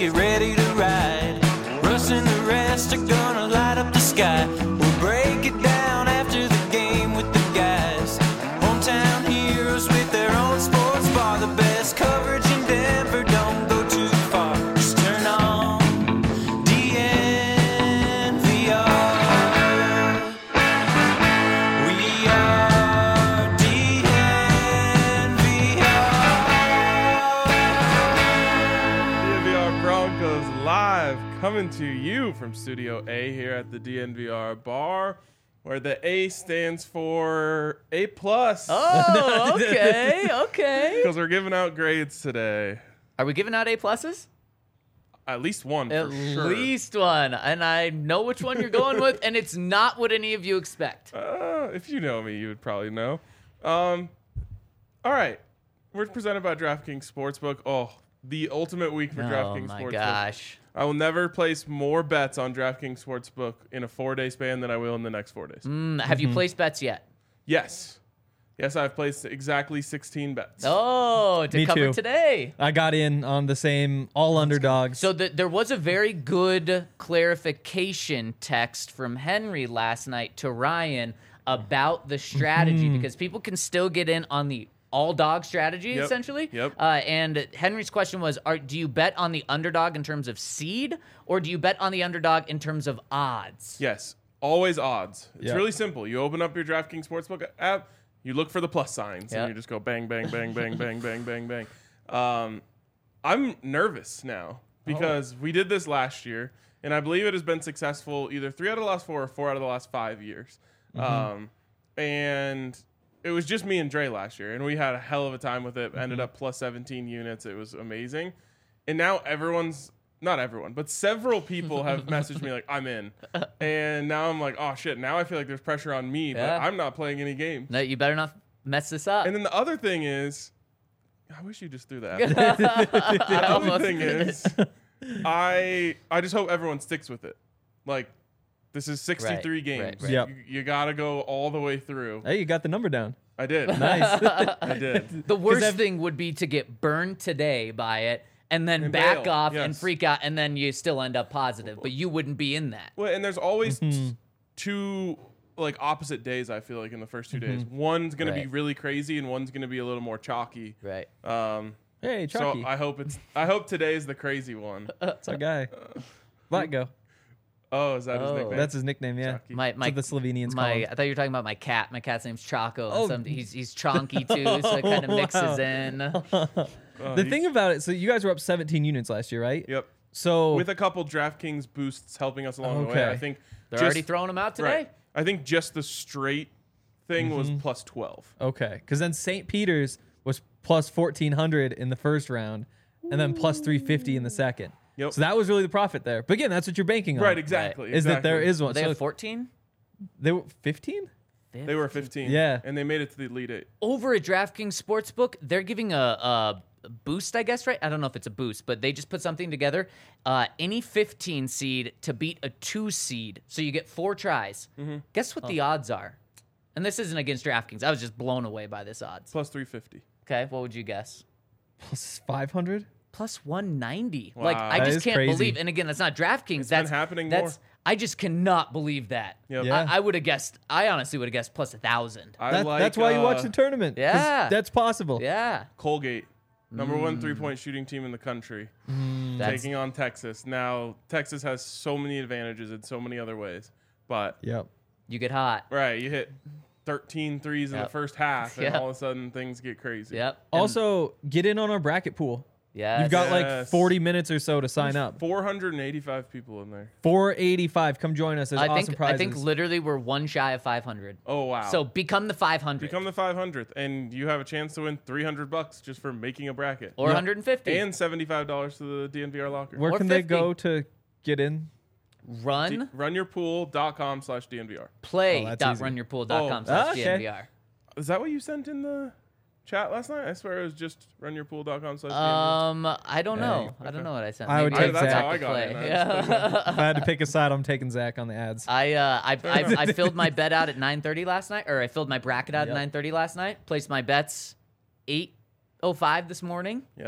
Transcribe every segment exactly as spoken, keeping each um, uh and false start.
get ready to ride. Russ and the rest are gonna light up the sky. We'll break it down after the game with the guys. Hometown heroes with their own sports bar. The best coverage in Denver, don't go too far. Just turn on D N V R. We are D N V R. D N V R Broncos live, coming to you from Studio A here at the D N V R bar, where the A stands for A plus. Oh, okay, okay. Because we're giving out grades today. Are we giving out A pluses? At least one, At for sure. least one, and I know which one you're going with, and it's not what any of you expect. Uh, if you know me, you would probably know. Um, all right. We're presented by DraftKings Sportsbook. Oh, the ultimate week for Oh DraftKings my Sportsbook. gosh. I will never place more bets on DraftKings Sportsbook in a four-day span than I will in the next four days. Mm, have you placed bets yet? Yes. Yes, I've placed exactly sixteen bets. Oh, to Me cover too. today. I got in on the same all underdogs. So the, there was a very good clarification text from Henry last night to Ryan about the strategy because people can still get in on the all dog strategy Yep. essentially. Yep. Uh, and Henry's question was: Are do you bet on the underdog in terms of seed, or do you bet on the underdog in terms of odds? Yes, always odds. It's Yeah. really simple. You open up your DraftKings Sportsbook app, you look for the plus signs, Yeah. and you just go bang, bang, bang, bang, bang, bang, bang, bang. Um, I'm nervous now because we did this last year, and I believe it has been successful either three out of the last four or four out of the last five years. Um, and it was just me and Dre last year, and we had a hell of a time with it. Ended up plus seventeen units. It was amazing. And now everyone's, not everyone, but several people have messaged me like, I'm in. And now I'm like, oh shit, now I feel like there's pressure on me, but Yeah. I'm not playing any games. No, you better not mess this up. And then the other thing is, I wish you just threw that. I The other almost thing did. is, I I just hope everyone sticks with it. Like, this is sixty-three Right, games. right, right. Yep. You, you got to go all the way through. Hey, you got the number down. I did. Nice. I did. The worst I've- thing would be to get burned today by it and then And back bail, off and yes. freak out, and then you still end up positive, but you wouldn't be in that. Well, and there's always Mm-hmm. t- two like opposite days. I feel like in the first two days, one's gonna be Right. really crazy, and one's gonna be a little more chalky. Right. Um, Hey, Chucky. so I hope it's. I hope today's the crazy one. That's our guy. Vlatko. Oh, is that his Oh. nickname? That's his nickname, yeah. Chucky. My my That's what the Slovenians call my him. I thought you were talking about my cat. My cat's name's Choco. and Oh. some, he's he's chonky too, so it kind of Wow. mixes in. Oh, The he- thing about it, so you guys were up seventeen units last year, right? Yep. So With a couple DraftKings boosts helping us along the way, Okay. I think They're just, already throwing them out today. right. I think just the straight thing was Mm-hmm. plus twelve. okay, because then Saint Peter's was plus fourteen hundred in the first round, and then plus three fifty in the second. Yep. So that was really the profit there. But again, that's what you're banking on. Right. Exactly. Is that there exactly. is one? They so have fourteen. they were fifteen. They were fifteen. Yeah. And they made it to the Elite Eight. Over at DraftKings Sportsbook, they're giving a, a boost, I guess, right? I don't know if it's a boost, but they just put something together. Uh, any fifteen seed to beat a two seed, so you get four tries. Mm-hmm. Guess what the odds are? And this isn't against DraftKings. I was just blown away by this odds. Plus three fifty. Okay, what would you guess? Plus five hundred. Plus one ninety. Like Wow. I That just is can't crazy. believe. And again, that's not DraftKings. that's been happening That's more. I just cannot believe that. Yep. Yeah. I, I would have guessed. I honestly would have guessed plus a thousand. I That, like, that's why you watch uh, the tournament. 'cause Yeah. That's possible. Yeah. Colgate, number one three-point shooting team in the country, That's taking on Texas. Now, Texas has so many advantages in so many other ways. But, Yep. you get hot. right, you hit thirteen threes in Yep. the first half, and Yep. all of a sudden things get crazy. Yep. And- Also, get in on our bracket pool. yeah. You've got like Yes. forty minutes or so to sign up. four hundred eighty-five people in there. four eighty-five. Come join us. There's I awesome think prizes. I think literally we're one shy of five hundred. Oh, wow. So become the five hundred become the five hundredth, and you have a chance to win three hundred bucks just for making a bracket. or Yep. one hundred fifty. And seventy-five dollars to the D N V R locker. Where or can they fifty. go to get in? Run D- runyourpool.com slash DNVR. play Oh, that's dot easy. runyourpool dot com Oh. slash Ah, okay. D N V R. Is that what you sent in the chat last night? I swear it was just runyourpool.com slash DNVR. Um, I don't Yeah, know. I don't know what I sent. I would Maybe take I Zach. forgot I to got it. play. I Yeah. If I had to pick a side, I'm taking Zach on the ads. I uh I I, I filled my bet out at nine thirty last night, or I filled my bracket out Yep. at nine thirty last night. Placed my bets eight oh five this morning. Yep.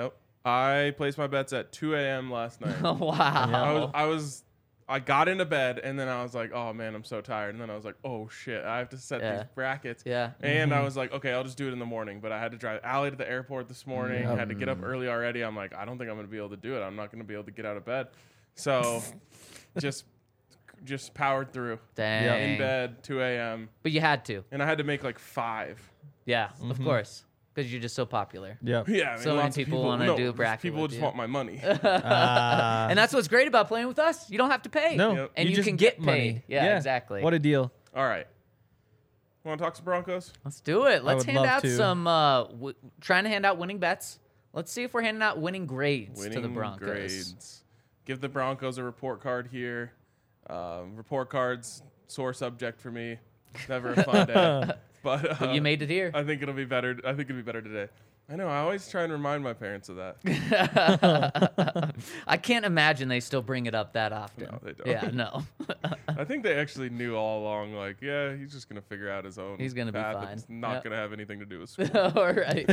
I placed my bets at two a.m. last night. wow. I was, I was, I got into bed and then I was like, oh man, I'm so tired. And then I was like, oh shit, I have to set Yeah. these brackets. Yeah. And I was like, okay, I'll just do it in the morning. But I had to drive Allie to the airport this morning. Yep. Had to get up early already. I'm like, I don't think I'm gonna be able to do it. I'm not gonna be able to get out of bed. So, just, just powered through. Dang. In bed, two a.m. But you had to. And I had to make like five. Yeah, of course. Because you're just so popular. Yeah. Yeah, I mean, So many lots of people wanna no, do a bracket People with just you. want my money. Uh, And that's what's great about playing with us. You don't have to pay. no, Yep. And you, just can get, money. paid. Yeah, exactly. What a deal. All right. Want to talk some Broncos? Let's do it. Let's would hand love out to. some, uh, w- trying to hand out winning bets. Let's see if we're handing out winning grades Winning to the Broncos. grades. Give the Broncos a report card here. Um, report cards, sore subject for me. Never a fun day. But, uh, But you made it here. I think it'll be better. I think it'll be better today. I know. I always try and remind my parents of that. I can't imagine they still bring it up that often. No, they don't. Yeah, no. I think they actually knew all along. Like, yeah, he's just gonna figure out his own. He's gonna be path. fine. It's not Yep. gonna have anything to do with school. All right.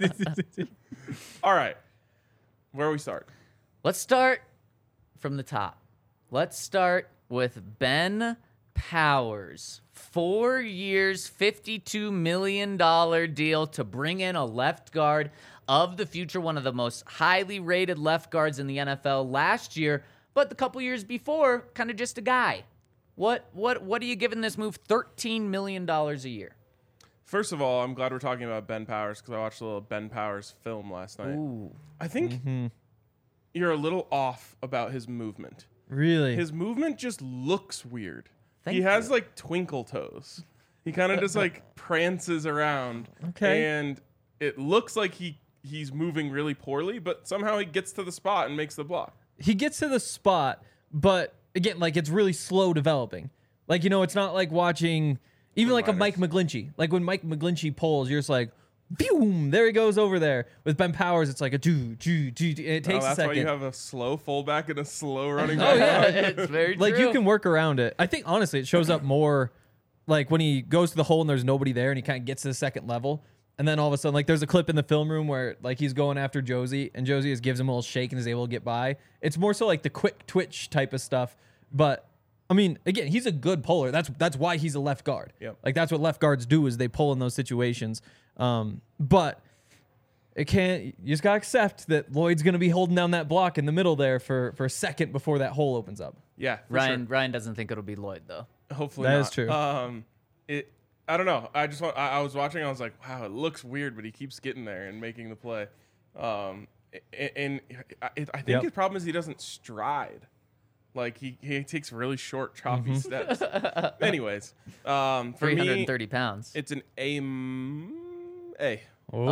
All right. Where we start? Let's start from the top. Let's start with Ben Powers. Four years, fifty-two million dollars deal to bring in a left guard of the future, one of the most highly rated left guards in the N F L last year, but the couple years before, kind of just a guy. What what what are you giving this move thirteen million dollars a year? First of all, I'm glad we're talking about Ben Powers because I watched a little Ben Powers film last night. Ooh. I think you're a little off about his movement. Really? His movement just looks weird. Thank he has you. like twinkle toes. He kind of just like prances around. Okay. And it looks like he he's moving really poorly, but somehow he gets to the spot and makes the block. he gets to the spot, but again, like it's really slow developing. Like, you know, it's not like watching even like a Mike McGlinchey. Like when Mike McGlinchey pulls, you're just like, boom, there he goes over there. With Ben Powers, it's like a do, do, do, do. It takes oh, a that's second. why you have a slow fullback and a slow running Oh back. yeah, it's very like true. you can work around it. I think honestly, it shows up more like when he goes to the hole and there's nobody there, and he kind of gets to the second level, and then all of a sudden, like there's a clip in the film room where like he's going after Josie, and Josie just gives him a little shake and is able to get by. It's more so like the quick twitch type of stuff. But I mean, again, he's a good puller. That's that's why he's a left guard. Yep. Like that's what left guards do is they pull in those situations. Um, but it can't. You just gotta accept that Lloyd's gonna be holding down that block in the middle there for for a second before that hole opens up. Yeah, for Ryan sure. Ryan doesn't think it'll be Lloyd though. Hopefully That not. is true. Um, it. I don't know. I just want. I, I was watching. I was like, wow, it looks weird, but he keeps getting there and making the play. Um, and, and I, I think Yep. his problem is he doesn't stride. Like he, he takes really short, choppy Mm-hmm. steps. Anyways, um, for Three hundred me, and thirty pounds. it's an A. m- A.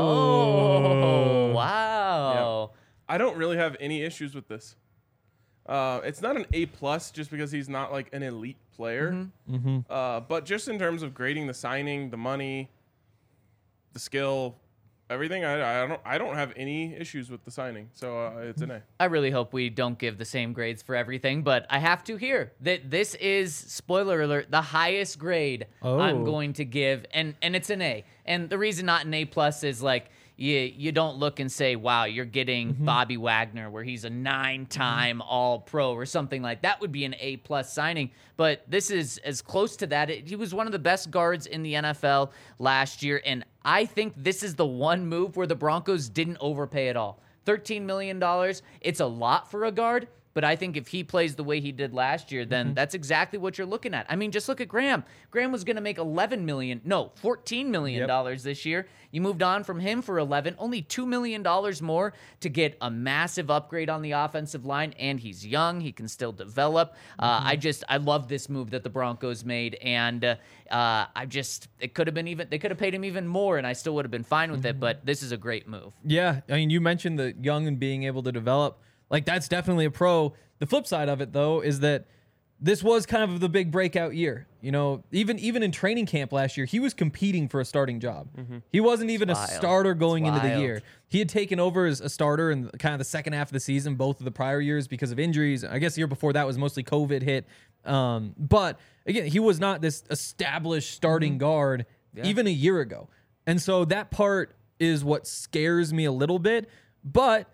Oh wow! I don't really have any issues with this. Uh, it's not an A plus just because he's not like an elite player. Mm-hmm. Uh, but just in terms of grading the signing, the money, the skill, everything, I, I don't I don't have any issues with the signing. So uh, it's an A. I really hope we don't give the same grades for everything, but I have to here that this is, spoiler alert, the highest grade I'm Oh. going to give, and and it's an A. And the reason not an A plus is like you you don't look and say, wow, you're getting Bobby Wagner where he's a nine-time All Pro or something like that would be an A plus signing. But this is as close to that. It, he was one of the best guards in the N F L last year, and I think this is the one move where the Broncos didn't overpay at all. thirteen million dollars, it's a lot for a guard, but I think if he plays the way he did last year, then that's exactly what you're looking at. I mean, just look at Graham. Graham was going to make eleven million dollars, no, fourteen million dollars this year. You moved on from him for eleven, only two million dollars more to get a massive upgrade on the offensive line, and he's young. He can still develop. Uh, I just, I love this move that the Broncos made, and uh, uh, I just, it could have been even, they could have paid him even more, and I still would have been fine with it, but this is a great move. Yeah, I mean, you mentioned the young and being able to develop. Like, that's definitely a pro. The flip side of it, though, is that this was kind of the big breakout year. You know, even even in training camp last year, he was competing for a starting job. He wasn't even It's a wild. starter going It's into the wild. year. He had taken over as a starter in kind of the second half of the season, both of the prior years because of injuries. I guess the year before that was mostly COVID hit. Um, but again, he was not this established starting guard even a year ago. And so that part is what scares me a little bit. But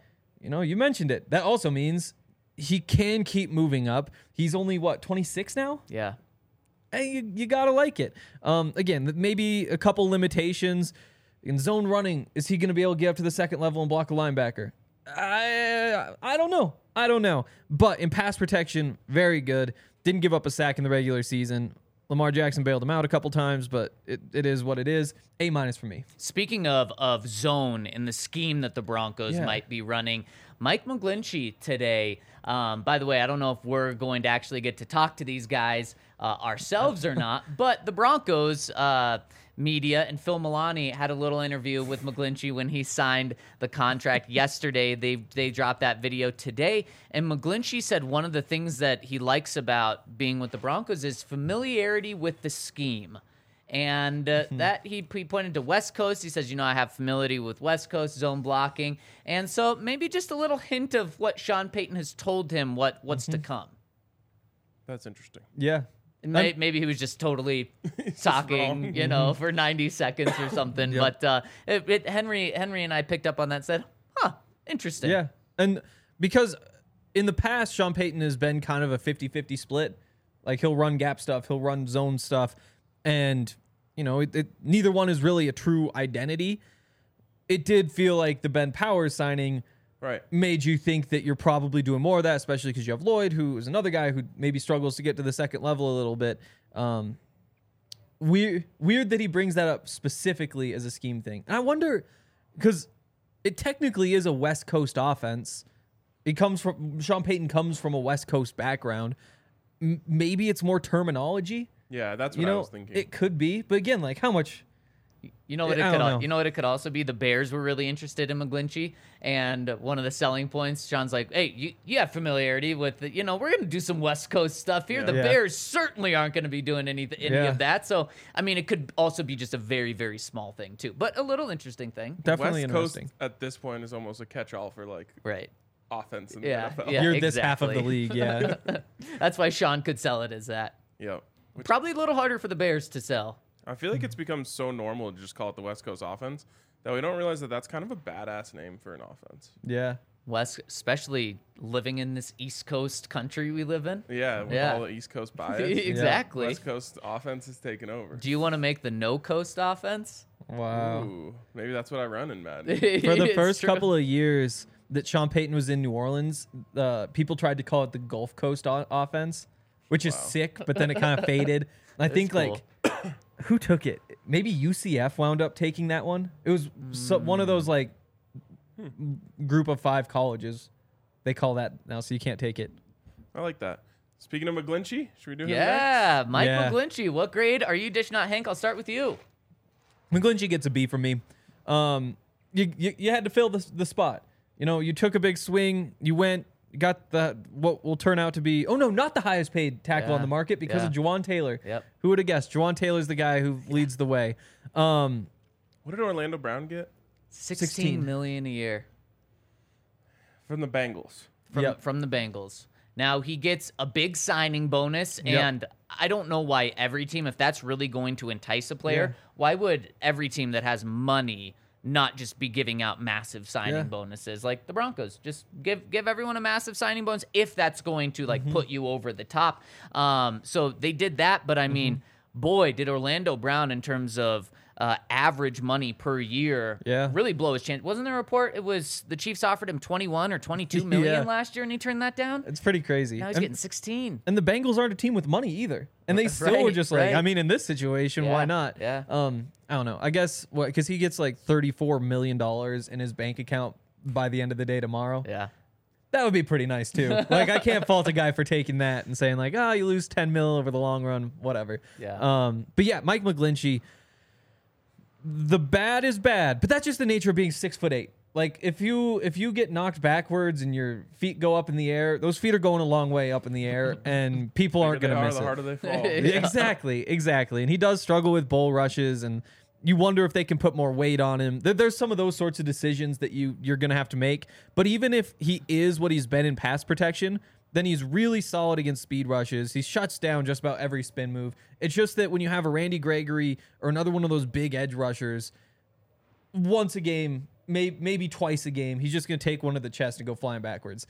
you know, you mentioned it. That also means he can keep moving up. He's only, what, twenty-six now? Yeah. Hey, you, you got to like it. Um, again, maybe a couple limitations. In zone running, is he going to be able to get up to the second level and block a linebacker? I I don't know. I don't know. But in pass protection, very good. Didn't give up a sack in the regular season. Lamar Jackson bailed him out a couple times, but it, it is what it is. A minus for me. Speaking of of zone in the scheme that the Broncos Yeah. might be running, Mike McGlinchey today. Um, by the way, I don't know if we're going to actually get to talk to these guys uh, ourselves or not, but the Broncos uh, media and Phil Milani had a little interview with McGlinchey when he signed the contract yesterday. They they dropped that video today, and McGlinchey said one of the things that he likes about being with the Broncos is familiarity with the scheme. And uh, that he, he pointed to West Coast. He says, you know, I have familiarity with West Coast zone blocking. And so maybe just a little hint of what Sean Payton has told him what what's to come. That's interesting. Yeah. And may, maybe he was just totally talking, wrong. you know, for ninety seconds or something. Yep. But uh, it, it, Henry, Henry and I picked up on that and said, huh, interesting. Yeah. And because in the past, Sean Payton has been kind of a fifty-fifty split. Like, he'll run gap stuff, he'll run zone stuff. And, you know, it, it, neither one is really a true identity. It did feel like the Ben Powers signing Right. made you think that you're probably doing more of that, especially because you have Lloyd, who is another guy who maybe struggles to get to the second level a little bit. Um, weird, weird that he brings that up specifically as a scheme thing. And I wonder, because it technically is a West Coast offense. It comes from, Sean Payton comes from a West Coast background. M- maybe it's more terminology. Yeah, that's what You I know, was thinking. it could be. But again, like, how much... You know what it I could don't al- know. you know what it could also be? The Bears were really interested in McGlinchey, and one of the selling points, Sean's like, hey, you, you have familiarity with, the, you know, we're going to do some West Coast stuff here. Yeah. The Yeah. Bears certainly aren't going to be doing any, any Yeah. of that. So, I mean, it could also be just a very, very small thing, too. But a little interesting thing. Definitely West Coast interesting. at this point is almost a catch-all for like Right. offense in the Yeah, N F L. yeah. You're this half of the exactly. league, yeah. That's why Sean could sell it as that. Yep. Which Probably a little harder for the Bears to sell. I feel like it's become so normal to just call it the West Coast offense that we don't realize that that's kind of a badass name for an offense. yeah. West, especially living in this East Coast country we live in. Yeah, with Yeah. all the East Coast bias. Exactly. West Coast offense is taking over. Do you want to make the no coast offense? Wow. Ooh, maybe that's what I run in Madden. For the It's first true. couple of years that Sean Payton was in New Orleans, uh, people tried to call it the Gulf Coast o- offense, which is Wow. sick, but then it kind of faded. And I think, cool. like, who took it? Maybe U C F wound up taking that one. It was so, one of those, like, group of five colleges. They call that now, so you can't take it. I like that. Speaking of McGlinchey, should we do him next? Yeah, Mike Yeah. McGlinchey. What grade are you dishing out, Hank? I'll start with you. McGlinchey gets a B from me. Um, you, you you had to fill the the spot. You know, you took a big swing. You went, got the what will turn out to be. Oh no, not the highest paid tackle Yeah, on the market because yeah. of Juwan Taylor. Yep. Who would have guessed? Juwan Taylor's the guy who leads the way. Um, What did Orlando Brown get Sixteen sixteen. million a year from the Bengals? from Yep. from the Bengals. Now he gets a big signing bonus, Yep. and I don't know why every team, if that's really going to entice a player, Yeah. why would every team that has money not just be giving out massive signing Yeah. bonuses like the Broncos? Just give give everyone a massive signing bonus if that's going to Mm-hmm. like put you over the top. Um, so they did that, but I mean, Mm-hmm. boy, did Orlando Brown in terms of uh, average money per year Yeah. really blow his chance. Wasn't there a report? It was the Chiefs offered him twenty-one or twenty-two million Yeah. last year, and he turned that down. it's pretty crazy. Now he's and, getting sixteen. and the Bengals aren't a team with money either, and they still were Right, just like, right. I mean, in this situation, Yeah, why not? yeah. Um, I don't know. I guess what because he gets like thirty-four million dollars in his bank account by the end of the day tomorrow. Yeah. That would be pretty nice too. Like, I can't fault a guy for taking that and saying like, oh, you lose ten mil over the long run, whatever. Yeah. Um, but yeah, Mike McGlinchey. The bad is bad, but that's just the nature of being six foot eight. Like, if you if you get knocked backwards and your feet go up in the air, those feet are going a long way up in the air, and people aren't The going to harder miss the it. harder they fall. Yeah. Exactly, exactly. And he does struggle with bull rushes, and you wonder if they can put more weight on him. There, there's some of those sorts of decisions that you you're gonna have to make. But even if he is what he's been in pass protection, then he's really solid against speed rushes. He shuts down just about every spin move. It's just that when you have a Randy Gregory or another one of those big edge rushers, once a game may, maybe twice a game, he's just going to take one to the chest and go flying backwards.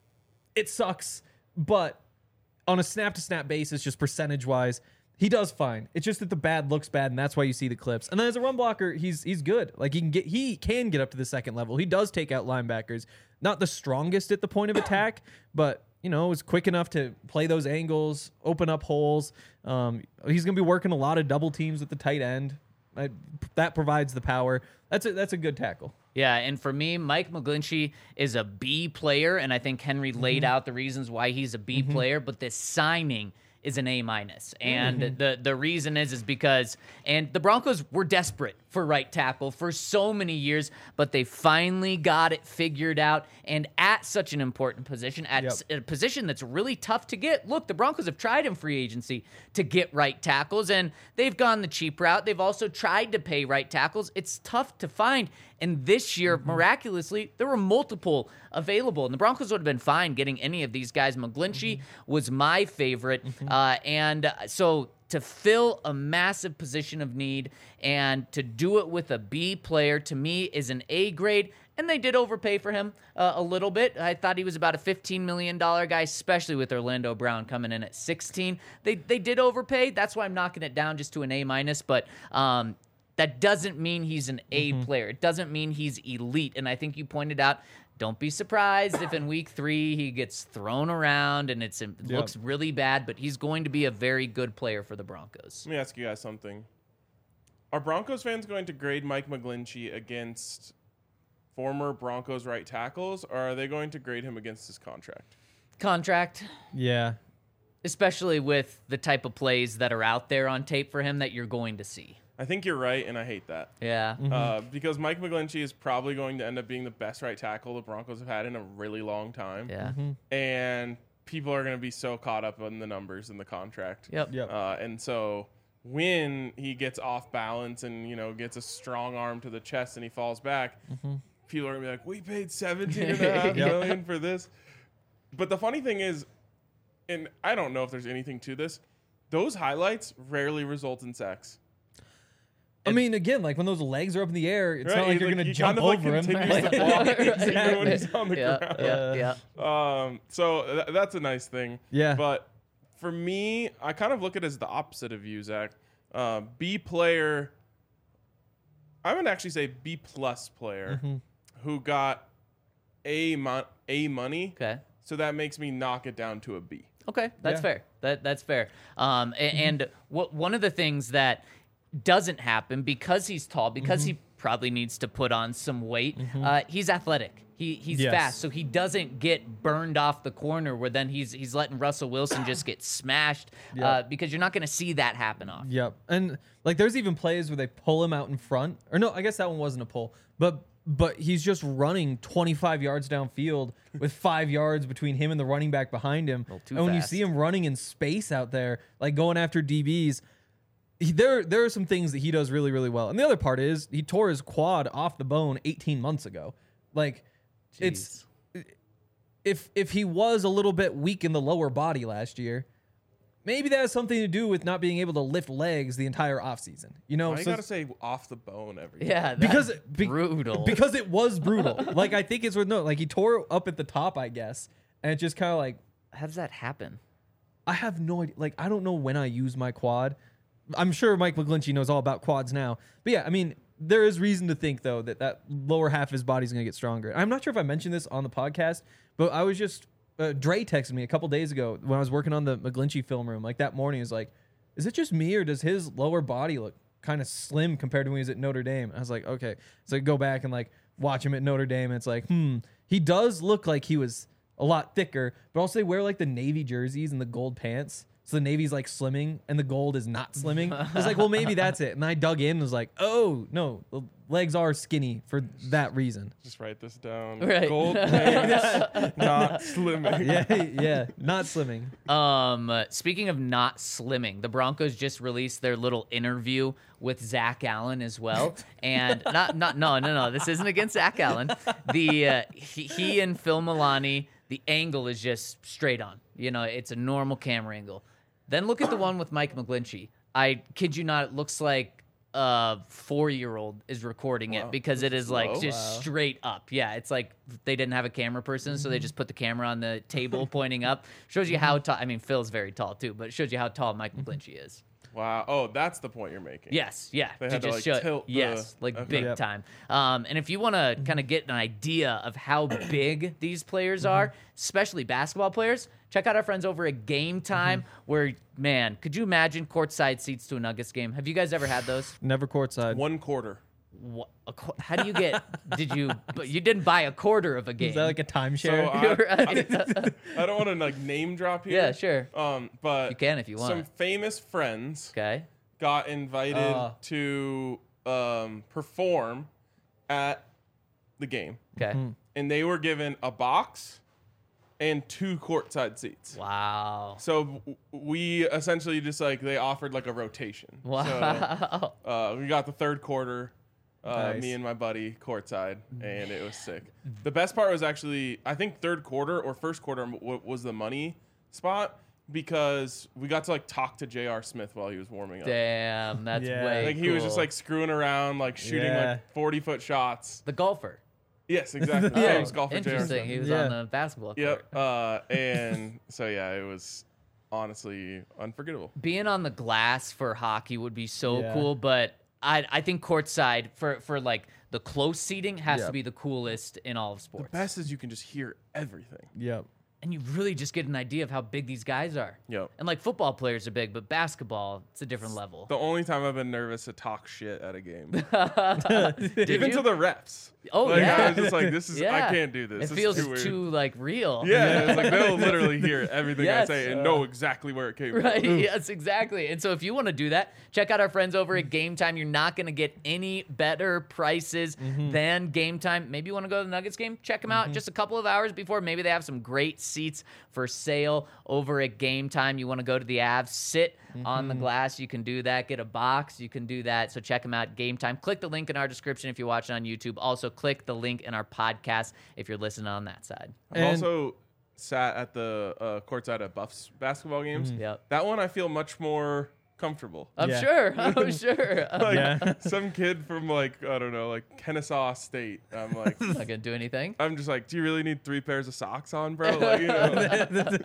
It sucks, but on a snap-to-snap basis, just percentage-wise, he does fine. It's just that the bad looks bad, and that's why you see the clips. And then as a run blocker, he's he's good. Like he can get he can get up to the second level. He does take out linebackers. Not the strongest at the point of attack, but you know, is quick enough to play those angles, open up holes. Um, he's going to be working a lot of double teams with the tight end. I, that provides the power. That's a, that's a good tackle. Yeah, and for me, Mike McGlinchey is a B player, and I think Henry mm-hmm. laid out the reasons why he's a B mm-hmm. player, but this signing is an A minus. And mm-hmm. the the reason is is because and the Broncos were desperate for right tackle for so many years, but they finally got it figured out, and at such an important position, at yep. a position that's really tough to get. Look, the Broncos have tried in free agency to get right tackles, and they've gone the cheap route. They've also tried to pay right tackles. It's tough to find, and this year, mm-hmm. miraculously, there were multiple available, and the Broncos would have been fine getting any of these guys. McGlinchey mm-hmm. was my favorite, mm-hmm. uh, and so to fill a massive position of need and to do it with a B player, to me, is an A grade. And they did overpay for him uh, a little bit. I thought he was about a fifteen million dollars guy, especially with Orlando Brown coming in at sixteen. They they did overpay. That's why I'm knocking it down just to an A minus. But um, that doesn't mean he's an A mm-hmm. player. It doesn't mean he's elite. And I think you pointed out, don't be surprised if in week three he gets thrown around and it's, it yep. looks really bad, but he's going to be a very good player for the Broncos. Let me ask you guys something. Are Broncos fans going to grade Mike McGlinchey against former Broncos right tackles, or are they going to grade him against his contract? Contract. Yeah. Especially with the type of plays that are out there on tape for him that you're going to see. I think you're right, and I hate that. Yeah. Mm-hmm. Uh, because Mike McGlinchey is probably going to end up being the best right tackle the Broncos have had in a really long time. Yeah. Mm-hmm. And people are going to be so caught up on the numbers in the contract. Yep. Yep. Uh, and so when he gets off balance and, you know, gets a strong arm to the chest and he falls back, mm-hmm. people are going to be like, we paid seventeen and a half million for this. But the funny thing is, and I don't know if there's anything to this, those highlights rarely result in sacks. I mean, again, like when those legs are up in the air, it's right, not like you're like, going to he jump kind of, over like, him. Continues to walk even when he's on the yeah, ground. Yeah, yeah. Um, so th- that's a nice thing. Yeah. But for me, I kind of look at it as the opposite of you, Zach. Uh, B player, I would actually say B plus player mm-hmm. who got A mon- A money. Okay. So that makes me knock it down to a B. Okay, that's Yeah. fair. That that's fair. Um, a- and what one of the things that doesn't happen because he's tall, because mm-hmm. he probably needs to put on some weight. Mm-hmm. Uh, he's athletic. He he's yes. fast, so he doesn't get burned off the corner where then he's he's letting Russell Wilson just get smashed Yep. uh, because you're not going to see that happen often. Yep. And like there's even plays where they pull him out in front. Or no, I guess that one wasn't a pull. But but he's just running twenty-five yards downfield with five yards between him and the running back behind him. too And when you fast. see him running in space out there, like going after D Bs, he, there there are some things that he does really, really well. And the other part is he tore his quad off the bone eighteen months ago. Like Jeez. it's if if he was a little bit weak in the lower body last year, maybe that has something to do with not being able to lift legs the entire offseason. You know, Why you so- gotta say off the bone every Yeah, that's because be- brutal. Because it was brutal. Like I think it's worth noting. Like he tore up at the top, I guess, and it just kind of like how does that happen? I have no idea. Like I don't know when I use my quad. I'm sure Mike McGlinchey knows all about quads now. But yeah, I mean, there is reason to think though that that lower half of his body is going to get stronger. I'm not sure if I mentioned this on the podcast, but I was just uh, Dre texted me a couple days ago when I was working on the McGlinchey film room. Like that morning, he was like, "Is it just me or does his lower body look kind of slim compared to when he was at Notre Dame?" I was like, "Okay." So I go back and like watch him at Notre Dame, and it's like, hmm, he does look like he was a lot thicker, but also they wear like the navy jerseys and the gold pants. So the navy's like slimming and the gold is not slimming. I was like, well, maybe that's it. And I dug in and was like, oh, no, the legs are skinny for that reason. Just write this down. Right. Gold pants, not slimming. Yeah, yeah, not slimming. Um, uh, speaking of not slimming, the Broncos just released their little interview with Zach Allen as well, and not not no no no. This isn't against Zach Allen. The uh, he, he and Phil Milani, the angle is just straight on. You know, it's a normal camera angle. Then look at the one with Mike McGlinchey. I kid you not, it looks like a four-year-old is recording it Wow. because it is like Slow. just Wow. straight up. Yeah, it's like they didn't have a camera person, so they just put the camera on the table pointing up. Shows you how tall. I mean, Phil's very tall too, but it shows you how tall Michael Glinchey is. Wow. Oh, that's the point you're making. Yes, yeah. They had to, just like, show, tilt the- yes, like okay. big Yep. time. Um, and if you want to kind of get an idea of how big these players are, especially basketball players, check out our friends over at Game Time. Where, man, could you imagine courtside seats to a Nuggets game? Have you guys ever had those? Never courtside. One quarter. What, a, qu- how do you get? Did you? But you didn't buy a quarter of a game. Is that like a So timeshare? I, You're right. I don't want to like name drop here. Yeah, sure. Um, but You can if you want. Some famous friends Okay. got invited Uh. to um, perform at the game, Okay. and they were given a box and two courtside seats. Wow. So w- we essentially just like they offered like a rotation. Wow. So, uh, we got the third quarter. Uh, Nice. Me and my buddy courtside, and it was sick. The best part was actually, I think third quarter or first quarter w- was the money spot because we got to like talk to J R. Smith while he was warming up. Damn, that's Yeah. way Like he was just cool. like screwing around, like shooting Yeah. like forty foot shots. the golfer. Yes, exactly. Yeah. Famous golfer J R. Interesting. Smith. He was Yeah. on the basketball court. Yep. Uh, and so yeah, it was honestly unforgettable. Being on the glass for hockey would be so Yeah. cool, but I I think courtside for for like the close seating has Yeah. to be the coolest in all of sports. Best is you can just hear everything. Yep. And you really just get an idea of how big these guys are. Yep. And like football players are big, but basketball, it's a different level. The only time I've been nervous to talk shit at a game, Did even you? to the refs. Oh, like, yeah. I was just like, this is Yeah. I can't do this. It This is feels too, too, weird. like real. Yeah, it's like they'll literally hear everything Yes. I say and know exactly where it came Right. from. Yes, exactly. And so if you want to do that, check out our friends over at Game Time. You're not going to get any better prices than Game Time. Maybe you want to go to the Nuggets game? Check them out just a couple of hours before. Maybe they have some great seats for sale over at Game Time. You want to go to the Avs, sit on the glass. You can do that. Get a box. You can do that. So check them out, Game Time. Click the link in our description if you're watching on YouTube. Also, click the link in our podcast if you're listening on that side. I've And- also sat at the uh, courtside at Buffs basketball games. Yep. That one I feel much more comfortable. I'm Yeah. sure. I'm sure. I'm Like Yeah. some kid from like I don't know, like Kennesaw State. I'm like, not going to do anything. I'm just like, do you really need three pairs of socks on, bro? Like, you know,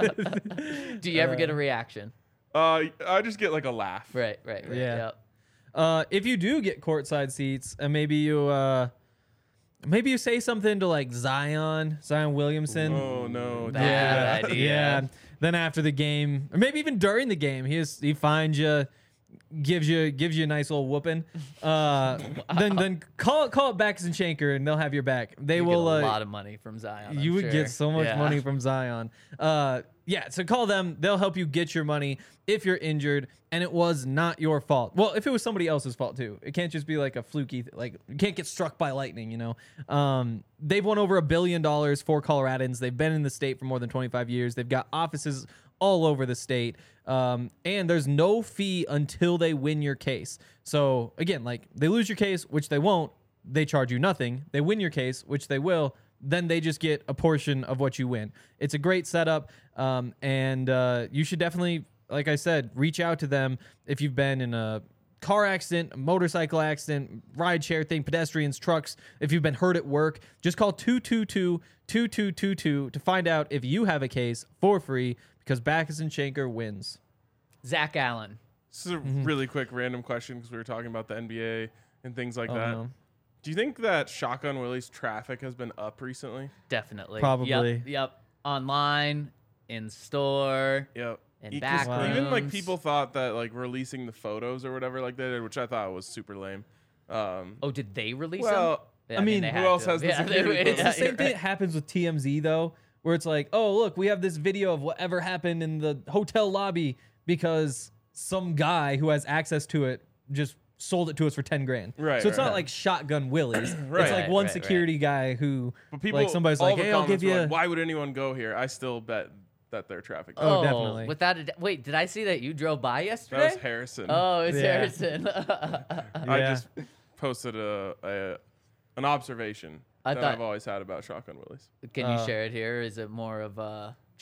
Do you ever get a reaction? uh, I just get like a laugh. Right, right, right. Yeah. Yep. Uh, if you do get courtside seats, and maybe you, uh, maybe you say something to like Zion, Zion Williamson. Oh no, don't do Bad that. idea. Yeah. Then after the game, or maybe even during the game, he is, he finds you, gives you gives you a nice little whooping. Uh, Then then call it call it Backus and Shanker, and they'll have your back. They You will. get a uh, lot of money from Zion. you I'm would sure. get so much Yeah. money from Zion. Uh, yeah, so call them. They'll help you get your money if you're injured and it was not your fault. Well, if it was somebody else's fault too. It can't just be like a fluky, like you can't get struck by lightning, you know? Um, they've won over a billion dollars for Coloradans. They've been in the state for more than twenty-five years. They've got offices all over the state. Um, and there's no fee until they win your case. So again, like they lose your case, which they won't. They charge you nothing. They win your case, which they will. Then they just get a portion of what you win. It's a great setup, um, and uh, you should definitely, like I said, reach out to them if you've been in a car accident, a motorcycle accident, ride share thing, pedestrians, trucks. If you've been hurt at work, just call two two two, two two two two to find out if you have a case for free because Backus and Shanker wins. Zach Allen. This is a really quick random question because we were talking about the N B A and things like Oh, that. no. Do you think that Shotgun Willie's traffic has been up recently? Definitely. Probably. Yep. yep. Online, in store. Yep. In E- 'cause back Wow. Even like rooms. people thought that like releasing the photos or whatever like they did, which I thought was super lame. Um, Oh, did they release well, them? I mean, they who had else to. has the Yeah, security they- code? It's yeah, the same you're thing right. that happens with T M Z though, where it's like, oh look, we have this video of whatever happened in the hotel lobby because some guy who has access to it just sold it to us for ten grand. Right, So it's right. not like Shotgun Willies. Right. It's like Right, one right, security guy who, but people, like somebody's all like, the hey, I'll give comments were you. like, why would anyone go here? I still bet that they're traffic. Oh, Oh, definitely. Without a d- wait, did I see that you drove by that yesterday? was Harrison. Oh, it's Yeah. Harrison. I Yeah. just posted a, a an observation I that thought- I've always had about Shotgun Willies. Can you Uh, share it here? Is it more of a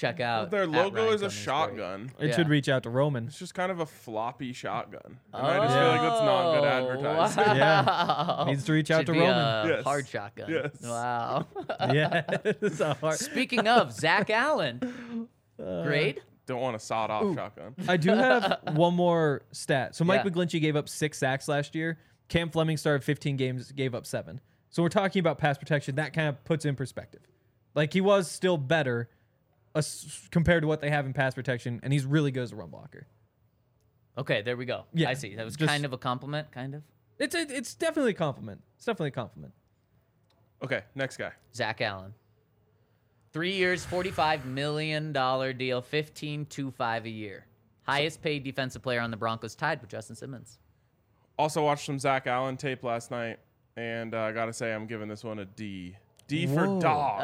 check out. Their at logo Ryan is a Cummings shotgun. It Yeah. should reach out to Roman. It's just kind of a floppy shotgun. And I just feel like that's not good advertising. Wow. Yeah. Needs to reach out Should to be Roman. A Yes. hard shotgun. Yes. Wow. Yeah, it's a hard. Speaking of Zach Allen, grade? Don't want a sawed-off shotgun. I do have one more stat. So Mike Yeah. McGlinchey gave up six sacks last year. Cam Fleming started fifteen games, gave up seven. So we're talking about pass protection. That kind of puts in perspective. Like he was still better uh, compared to what they have in pass protection, and he's really good as a run blocker. Okay, there we go. Yeah, I see. That was just- kind of a compliment, kind of. It's a, it's definitely a compliment. It's definitely a compliment. Okay, next guy. Zach Allen. Three years, forty-five million dollars deal, fifteen two five a year. Highest paid defensive player on the Broncos, tied with Justin Simmons. Also watched some Zach Allen tape last night, and uh, I gotta say I'm giving this one a D. D for Whoa. dog.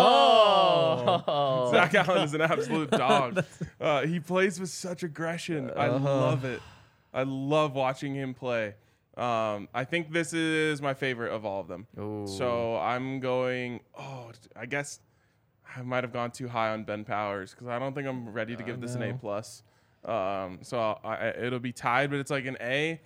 Oh! Zach Allen is an absolute dog. Uh, he plays with such aggression. I love it. I love watching him play. Um, I think this is my favorite of all of them. Ooh. So I'm going. Oh, I guess I might have gone too high on Ben Powers because I don't think I'm ready to give this an A no. plus. Um, so I, I, it'll be tied, but it's like an A.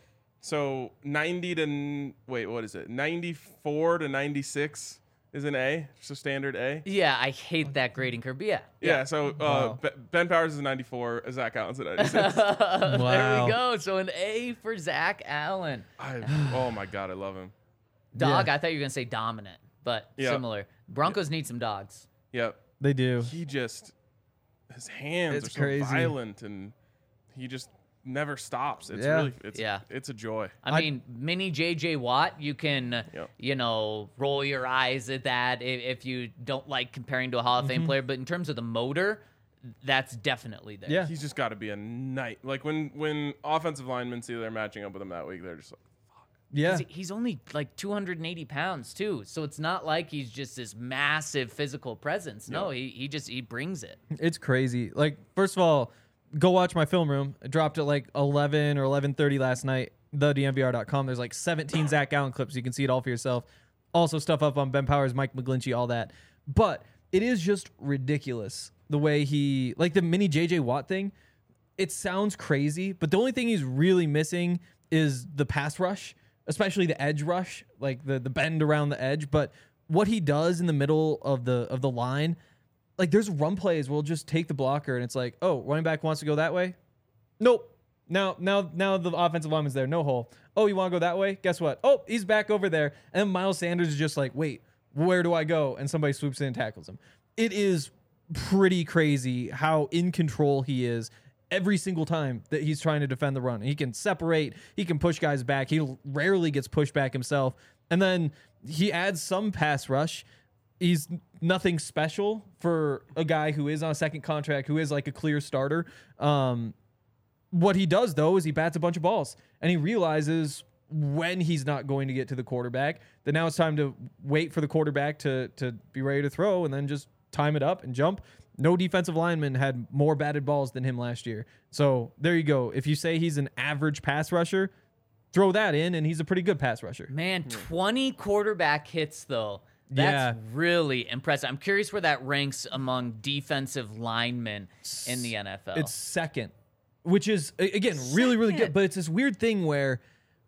So ninety to n- wait, what is it? ninety-four to ninety-six is an A, just a standard A. Yeah, I hate that grading curve, but yeah. Yeah. So uh, Wow. Be- Ben Powers is a ninety-four. Zach Allen's a ninety-six. There Wow. we go. So an A for Zach Allen. I, oh my god, I love him. Dog, Yeah. I thought you were going to say dominant, but Yeah. similar. Broncos need some dogs. Yep. They do. He just his hands It's are so crazy. violent, and he just never stops. It's Yeah. really it's Yeah. it's a joy. I, I- mean, mini J J Watt, you can, Yep. you know, roll your eyes at that if, if you don't like comparing to a Hall of Mm-hmm. Fame player. But in terms of the motor, that's definitely there. Yeah. He's just got to be a night. Like when when offensive linemen see they're matching up with him that week, they're just like, Yeah. He's, he's only like two hundred eighty pounds, too. So it's not like he's just this massive physical presence. No, he, he just, he brings it. It's crazy. Like, first of all, go watch my film room. I dropped at like eleven or eleven thirty last night. the D M V R dot com. There's like seventeen Zach Allen clips. You can see it all for yourself. Also stuff up on Ben Powers, Mike McGlinchey, all that. But it is just ridiculous the way he, like the mini J J Watt thing. It sounds crazy, but the only thing he's really missing is the pass rush, especially the edge rush, like the the bend around the edge. But what he does in the middle of the of the line, like there's run plays where we'll just take the blocker and it's like, oh, running back wants to go that way. Nope. Now, now, now the offensive lineman's there, no hole. Oh, you want to go that way? Guess what? Oh, he's back over there. And then Miles Sanders is just like, wait, where do I go? And somebody swoops in and tackles him. It is pretty crazy how in control he is every single time that he's trying to defend the run. He can separate, he can push guys back. He rarely gets pushed back himself. And then he adds some pass rush. He's nothing special for a guy who is on a second contract, who is like a clear starter. Um, what he does, though, is he bats a bunch of balls. And he realizes when he's not going to get to the quarterback, that now it's time to wait for the quarterback to, to be ready to throw and then just time it up and jump. No defensive lineman had more batted balls than him last year. So there you go. If you say he's an average pass rusher, throw that in, and he's a pretty good pass rusher. Man, twenty quarterback hits, though. That's Yeah. really impressive. I'm curious where that ranks among defensive linemen in the N F L. It's second, which is a- again really really Second. good. But it's this weird thing where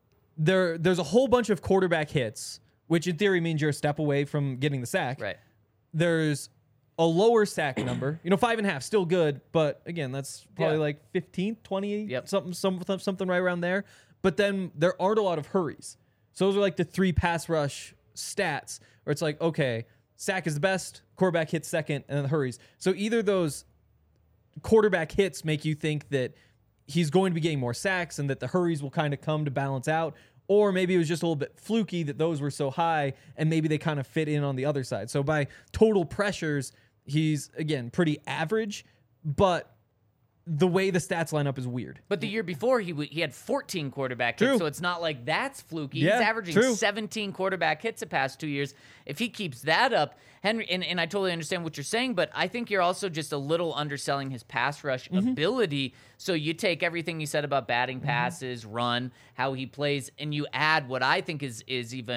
there there's a whole bunch of quarterback hits, which in theory means you're a step away from getting the sack. right. There's a lower sack number, you know, five and a half, still good, but again, that's probably Yeah. like fifteenth, twentieth, Yep. something, some, something right around there. But then there aren't a lot of hurries. So those are like the three pass rush stats where it's like, okay, sack is the best, quarterback hits second, and then the hurries. So either those quarterback hits make you think that he's going to be getting more sacks and that the hurries will kind of come to balance out, or maybe it was just a little bit fluky that those were so high and maybe they kind of fit in on the other side. So by total pressures, he's, again, pretty average, but the way the stats line up is weird. But the year before, he w- he had fourteen quarterback True. hits, so it's not like that's fluky. Yeah, He's averaging true. seventeen quarterback hits the past two years. If he keeps that up, Henry, and, and I totally understand what you're saying, but I think you're also just a little underselling his pass rush Mm-hmm. ability. So you take everything you said about batting passes, run, how he plays, and you add what I think is is even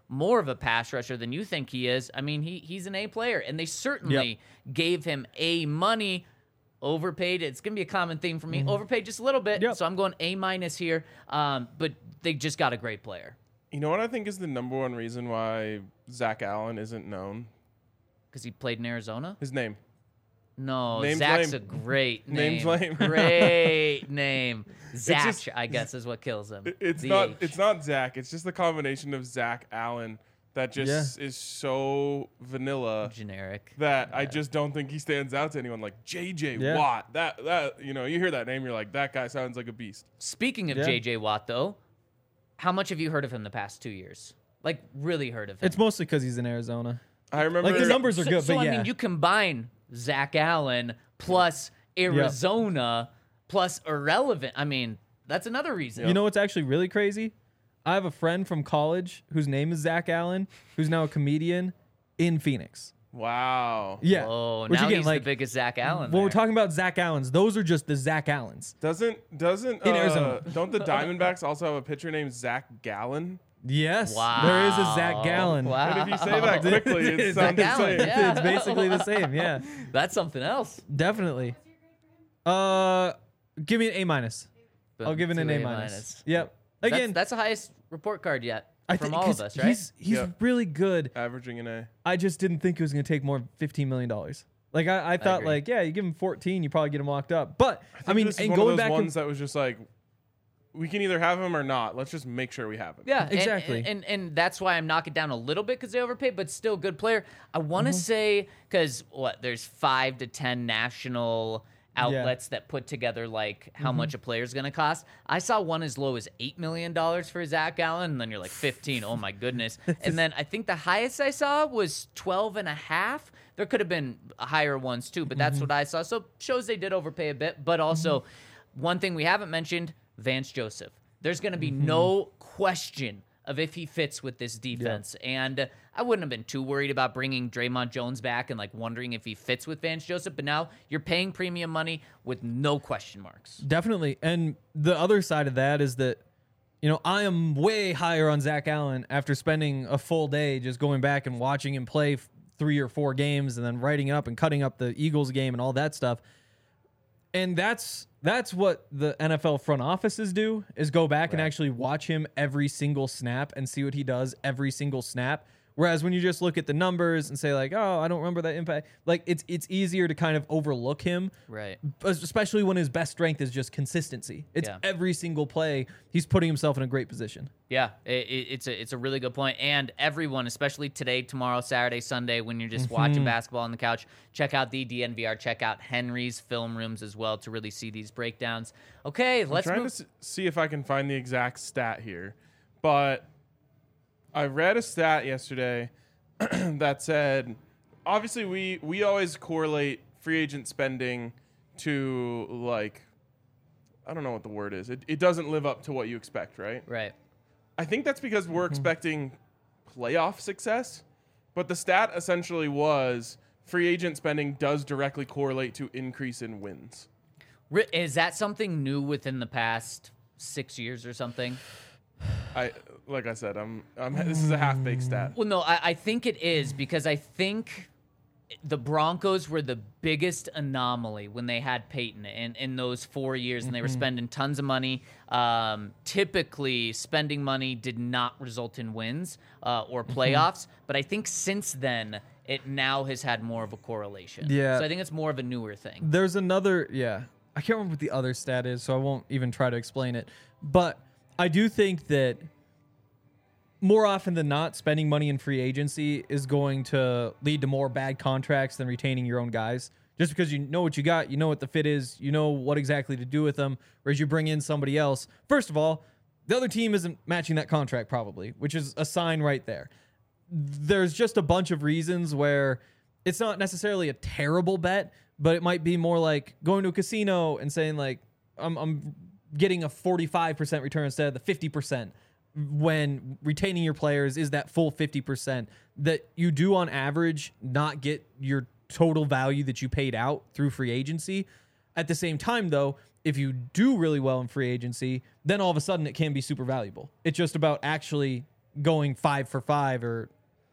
more of a pass rusher than you think he is. I mean, he he's an A player, and they certainly Yep. gave him A money. Overpaid. It's going to be a common theme for me. Mm-hmm. Overpaid just a little bit. Yep. So I'm going A minus here. Um, but they just got a great player You know what I think is the number one reason why Zach Allen isn't known? because he played in Arizona. His name. No, Name's Zach's lame. a great name. Name's lame. Great name. Zach, just- I guess, is what kills him. It's The not. H. It's not Zach. It's just the combination of Zach Allen that just Yeah. is so vanilla generic. that I just don't think he stands out to anyone. Like J J Yeah. Watt. That that you know, you hear that name, you're like, that guy sounds like a beast. Speaking of Yeah. J J Watt, though, how much have you heard of him the past two years? Like, really heard of him? It's mostly because he's in Arizona. I remember Like the numbers are so, good, so but I yeah. mean, you combine Zach Allen plus Arizona plus irrelevant. I mean, that's another reason. You know what's actually really crazy? I have a friend from college whose name is Zach Allen, who's now a comedian in Phoenix. Wow. Yeah. Oh, Which now again, he's like, the biggest Zach Allen. when we're there. talking about Zach Allens, those are just the Zach Allens. Doesn't doesn't In uh, Arizona. don't the Diamondbacks also have a pitcher named Zach Gallen? Yes. Wow. There is a Zach Gallen. Wow. And if you say that quickly, it It's sounds Zach Gallen, insane. yeah. It's basically the same. Yeah. That's something else. Definitely. Uh, give me an A minus. I'll Boom, give it an two A A minus. minus. Yep. That's, Again, that's the highest report card yet I from think all of 'cause us, right? He's he's Yeah. really good. Averaging an A. I just didn't think it was going to take more than fifteen million dollars. Like I, I thought, agree. like yeah, you give him fourteen, you probably get him locked up. But I, think mean, this is and one going of those back, ones and, that was just like, we can either have him or not. Let's just make sure we have him. Yeah, and- Exactly. And, and and that's why I'm knocking down a little bit because they overpaid, but still good player. I want to Mm-hmm. say because what there's five to ten national outlets that put together like how Mm-hmm. much a player's going to cost. I saw one as low as eight million dollars for Zach Allen, and then you're like fifteen. Oh my goodness! And then I think the highest I saw was twelve and a half. There could have been higher ones too, but that's Mm-hmm. what I saw. So shows they did overpay a bit, but also one thing we haven't mentioned. Vance Joseph. There's going to be no question of if he fits with this defense. And uh, I wouldn't have been too worried about bringing Draymond Jones back and like wondering if he fits with Vance Joseph. But now you're paying premium money with no question marks. definitely. And the other side of that is that, you know, I am way higher on Zach Allen after spending a full day just going back and watching him play f- three or four games and then writing it up and cutting up the Eagles game and all that stuff. And that's that's what the N F L front offices do, is go back and actually watch him every single snap and see what he does every single snap. Whereas when you just look at the numbers and say like, oh, I don't remember that impact, like it's it's easier to kind of overlook him, Right. especially when his best strength is just consistency. It's Yeah. every single play he's putting himself in a great position. Yeah, it, it, it's a it's a really good point. And everyone, especially today, tomorrow, Saturday, Sunday, when you're just watching basketball on the couch, check out the D N V R. Check out Henry's film rooms as well to really see these breakdowns. Okay, let's I'm trying move. to s- see if I can find the exact stat here, but I read a stat yesterday that said, obviously we we always correlate free agent spending to like, I don't know what the word is. It, it doesn't live up to what you expect, right? Right. I think that's because we're expecting playoff success, but the stat essentially was free agent spending does directly correlate to increase in wins. Ri- Is that something new within the past six years or something? I like I said, I'm, I'm this is a half baked stat. Well, no, I, I think it is because I think the Broncos were the biggest anomaly when they had Peyton in, in those four years and they were spending tons of money. Um, typically, spending money did not result in wins uh, or playoffs. But I think since then, it now has had more of a correlation. Yeah. So I think it's more of a newer thing. There's another, yeah. I can't remember what the other stat is, so I won't even try to explain it. But I do think that more often than not, spending money in free agency is going to lead to more bad contracts than retaining your own guys. Just because you know what you got, you know what the fit is, you know what exactly to do with them. Whereas you bring in somebody else, first of all, the other team isn't matching that contract probably, which is a sign right there. There's just a bunch of reasons where it's not necessarily a terrible bet, but it might be more like going to a casino and saying like, I'm, I'm getting a forty-five percent return instead of the fifty percent. When retaining your players is that full fifty percent that you do on average not get your total value that you paid out through free agency. At the same time, though, if you do really well in free agency, then all of a sudden it can be super valuable. It's just about actually going five for five or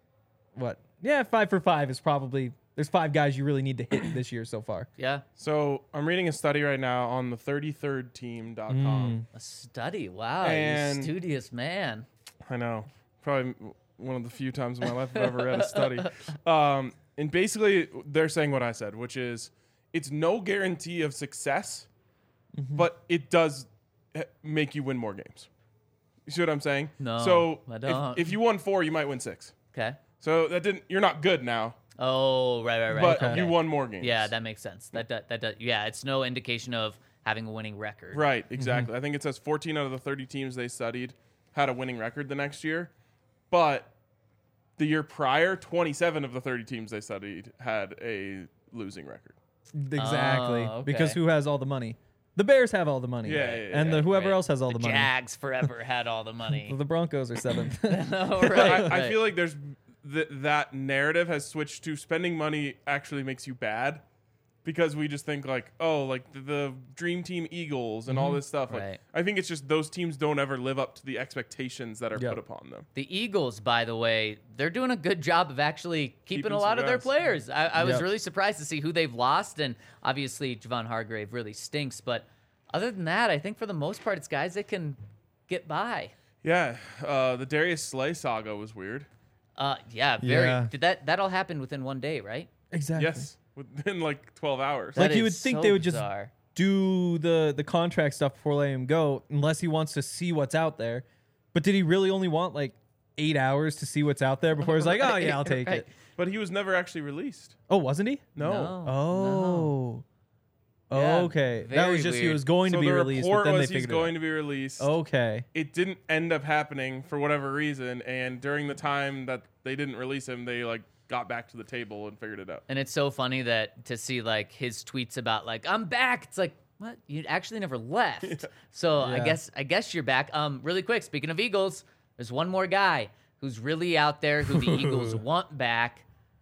what? Yeah, five for five is probably there's five guys you really need to hit this year so far. Yeah. So I'm reading a study right now on the thirty-third team dot com. A study. Wow. And- you studious man. I know. Probably one of the few times in my life I've ever read a study. Um, and basically, they're saying what I said, which is it's no guarantee of success, but it does eh, make you win more games. You see what I'm saying? No, So I if- don't. If, you won four, you might win six. Okay. So that didn't. You're not good now, Oh, right, right, right. but okay. you won more games. Yeah, that makes sense. That that, that, that yeah, it's no indication of having a winning record. Right, exactly. I think it says fourteen out of the thirty teams they studied had a winning record the next year, but the year prior, twenty-seven of the thirty teams they studied had a losing record. Exactly. Oh, okay. Because who has all the money? The Bears have all the money. Yeah, yeah, yeah, and the yeah, whoever right. else has all the, The money. Jags forever had all the money. The Broncos are seventh. oh, I, right, I right. feel like there's th- that narrative has switched to spending money actually makes you bad, because we just think like, oh, like the, the dream team Eagles and all this stuff. Like, Right. I think it's just those teams don't ever live up to the expectations that are Yep. put upon them. The Eagles, by the way, they're doing a good job of actually keeping, Keeping a lot some of their guys. players. I, I was Yep. really surprised to see who they've lost, and obviously Javon Hargrave really stinks. But other than that, I think for the most part, it's guys that can get by. Yeah, uh, the Darius Slay saga was weird. Uh, yeah, very. Yeah. Did that that all happen within one day, right? Exactly. Yes, within like twelve hours. That Like you would is think so they would just bizarre. do the the contract stuff before letting him go, unless he wants to see what's out there. But did he really only want like eight hours to see what's out there before he's like, oh yeah, I'll take Right. it. But he was never actually released. Oh, wasn't he? No. No. Oh. Yeah, Okay. That very was just he weird. was going So to be the released, report but then they was he's figured going it to be released. out. Okay. It didn't end up happening for whatever reason, and during the time that they didn't release him, they like got back to the table and figured it out. And it's so funny that to see like his tweets about like I'm back. It's like what you actually never left. So I Yeah. guess I guess you're back. Um, really quick. Speaking of Eagles, there's one more guy who's really out there who the Eagles want back.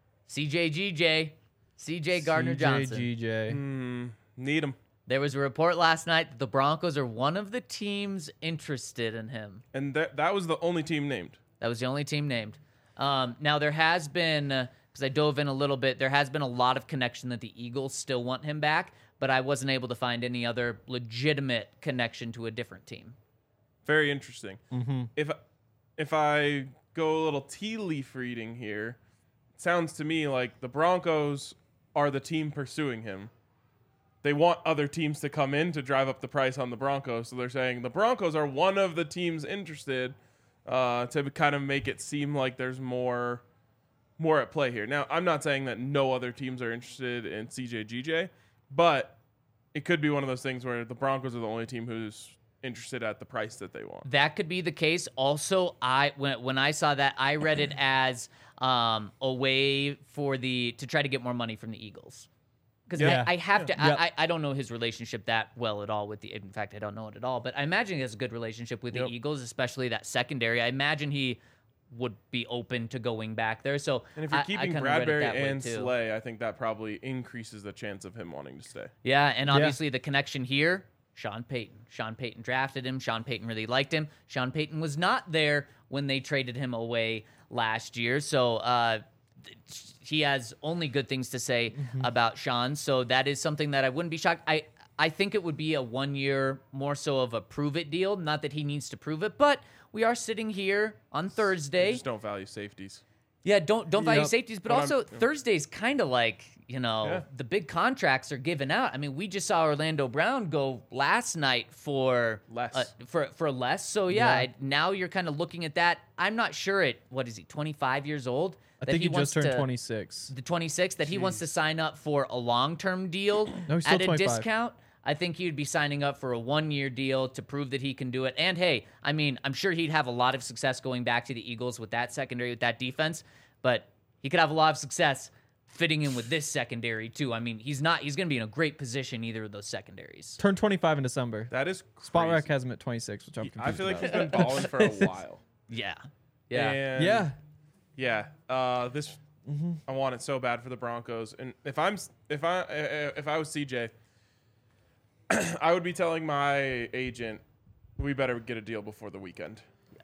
C J G J, C J Gardner Johnson. C J G J. Mm, need him. There was a report last night that the Broncos are one of the teams interested in him. And that that was the only team named. That was the only team named. Um, now, there has been, because I dove in a little bit, there has been a lot of connection that the Eagles still want him back, but I wasn't able to find any other legitimate connection to a different team. Very interesting. If if I go a little tea leaf reading here, it sounds to me like the Broncos are the team pursuing him. They want other teams to come in to drive up the price on the Broncos, so they're saying the Broncos are one of the teams interested uh, to kind of make it seem like there's more more at play here. Now, I'm not saying that no other teams are interested in C J G J, but it could be one of those things where the Broncos are the only team who's interested at the price that they want. That could be the case. Also, I when when I saw that, I read it as um, a way for the to try to get more money from the Eagles. Because Yeah. I, I have to, Yeah. I, I don't know his relationship that well at all with the. In fact, I don't know it at all. But I imagine he has a good relationship with Yep. the Eagles, especially that secondary. I imagine he would be open to going back there. So And if you're I- I keeping kinda read it Bradbury that way, and too. Slay, I think that probably increases the chance of him wanting to stay. Yeah, and obviously the connection here, Sean Payton. Sean Payton drafted him. Sean Payton really liked him. Sean Payton was not there when they traded him away last year. So uh, th- he has only good things to say about Sean. So that is something that I wouldn't be shocked. I, I think it would be a one year, more so of a prove it deal. Not that he needs to prove it, but we are sitting here on They Thursday. just don't value safeties. Yeah, don't don't value Yep. safeties, but But I'm- also Thursday's kind of like, you know, Yeah. the big contracts are given out. I mean, we just saw Orlando Brown go last night for Less. uh, for for less. So yeah, Yeah. I- now you're kind of looking at that. I'm not sure at what is he, twenty-five years old? I that think he, wants just turned to- twenty-six. The twenty-six that he wants to sign up for a long-term deal No, he's still at a twenty-five. discount. I think he'd be signing up for a one-year deal to prove that he can do it. And hey, I mean, I'm sure he'd have a lot of success going back to the Eagles with that secondary, with that defense, but he could have a lot of success fitting in with this secondary too. I mean, he's not he's going to be in a great position either of those secondaries. Turned twenty-five in December. That is Spot crazy. Rack has him at twenty-six, which I'm confused I feel like about. he's been balling for a while. Yeah. Yeah. And Yeah. yeah. Uh, this I want it so bad for the Broncos, and if I'm if I if I was C J, I would be telling my agent we better get a deal before the weekend.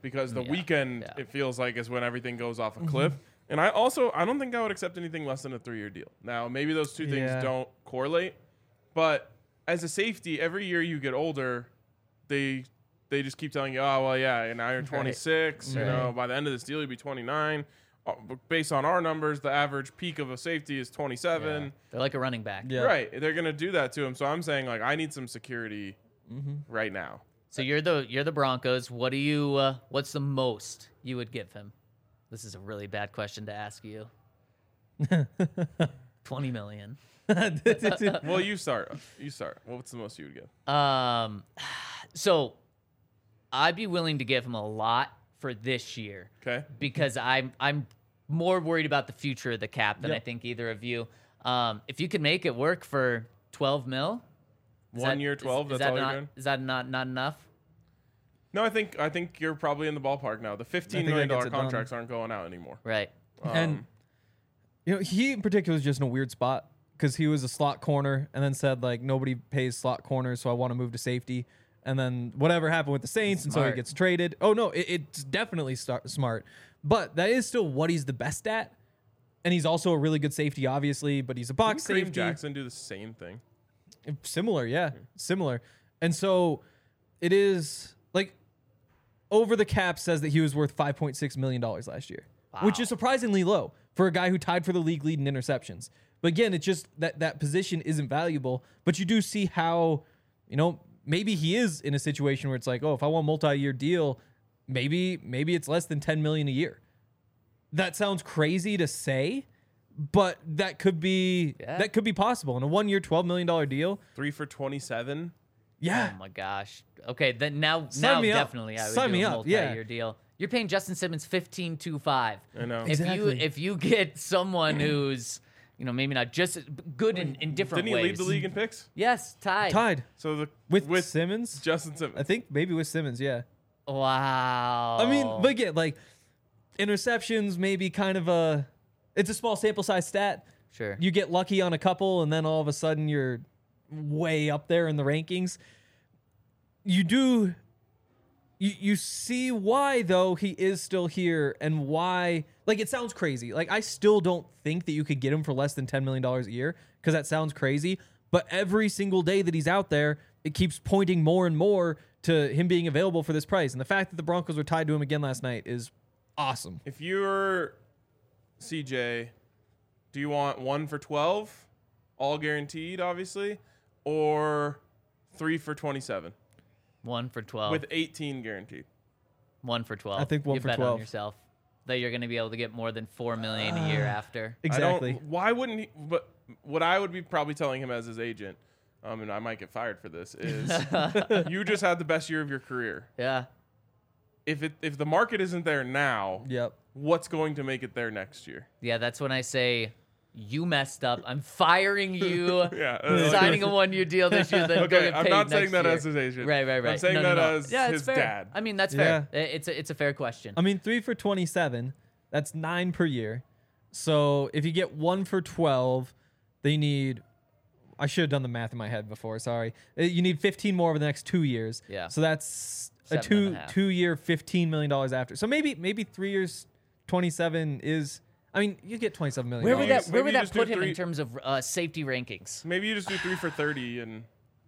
because the Yeah, weekend yeah. it feels like is when everything goes off a cliff. And I also I don't think I would accept anything less than a three-year deal. Now maybe those two things Yeah. don't correlate, but as a safety, every year you get older, they they just keep telling you, oh well, yeah, and now you're twenty-six. You Right. know, by the end of this deal, you'll be twenty-nine. Uh, but based on our numbers, the average peak of a safety is twenty-seven. Yeah. They're like a running back. Yeah. Right, they're gonna do that to him. So I'm saying like I need some security Mm-hmm. right now. So you're the you're the Broncos. What do you? Uh, what's the most you would give him? This is a really bad question to ask you. Twenty million. Well, you start. You start. What's the most you would give? Um, so I'd be willing to give him a lot for this year Okay. because I'm I'm more worried about the future of the cap than Yep. I think either of you. Um, if you could make it work for twelve mil, is One that- year, is- twelve. Is, That's that all not, you're doing. Is that not not enough? No, I think I think you're probably in the ballpark now. The fifteen think million that dollar gets it done. contracts aren't going out anymore. Right. Um, And you know, he in particular is just in a weird spot because he was a slot corner and then said like nobody pays slot corners, so I want to move to safety. And then whatever happened with the Saints, and so he Smart. gets traded. Oh no, it, it's definitely star- smart, but that is still what he's the best at. And he's also a really good safety, obviously, but he's a box didn't Kareem safety. Jackson do the same thing. Similar, yeah, similar. And so it is like over the cap says that he was worth five point six million dollars last year, which Wow. is surprisingly low for a guy who tied for the league lead in interceptions. But again, it's just that that position isn't valuable. But you do see how, you know, maybe he is in a situation where it's like, oh, if I want a multi-year deal, maybe maybe it's less than ten million dollars a year. That sounds crazy to say, but that could be Yeah. that could be possible in a one-year, twelve million dollars deal. Three for twenty-seven. Yeah. Oh my gosh. Okay, then now Sign now me up. definitely I would Sign do me a up, multi-year yeah. deal. You're paying Justin Simmons fifteen two five. I know. If Exactly. you if you get someone who's, you know, maybe not just good in, in different Didn't he ways. lead the league in picks? Yes, tied. Tied So the with, with Simmons. Justin Simmons. I think maybe with Simmons, yeah. Wow. I mean, but again, like interceptions, maybe kind of a, it's a small sample size stat. sure. You get lucky on a couple, and then all of a sudden you're way up there in the rankings. You do, you you see why though he is still here, and why. Like it sounds crazy. Like I still don't think that you could get him for less than ten million dollars a year because that sounds crazy. But every single day that he's out there, it keeps pointing more and more to him being available for this price. And the fact that the Broncos were tied to him again last night is awesome. If you're C J, do you want one for twelve, all guaranteed, obviously, or three for twenty-seven One for twelve. with eighteen guaranteed? one for twelve. I think one you for bet on twelve. yourself that you're going to be able to get more than four million a year after. I Exactly. don't, why wouldn't he? But what I would be probably telling him as his agent, um, and I might get fired for this, is you just had the best year of your career. Yeah. If it if the market isn't there now, Yep. what's going to make it there next year? Yeah, that's when I say you messed up. I'm firing you. Yeah, uh, Signing a one-year deal this year, then go Okay, get I'm paid not saying next that year. as his agent. Right, right, right. I'm saying No, no, that no. as yeah, it's his fair. dad. I mean, that's fair. It's a it's a fair question. I mean, three for twenty-seven. That's nine per year. So if you get one for twelve, they need. I should have done the math in my head before. Sorry. Uh, You need fifteen more over the next two years. Yeah. So that's a Seven two and a half. two year fifteen million dollars after. So maybe maybe three years twenty-seven is. I mean, you get twenty-seven million. Where would Maybe- that Where would maybe you that just do put him in three- terms of uh, safety rankings? Maybe you just do three for thirty and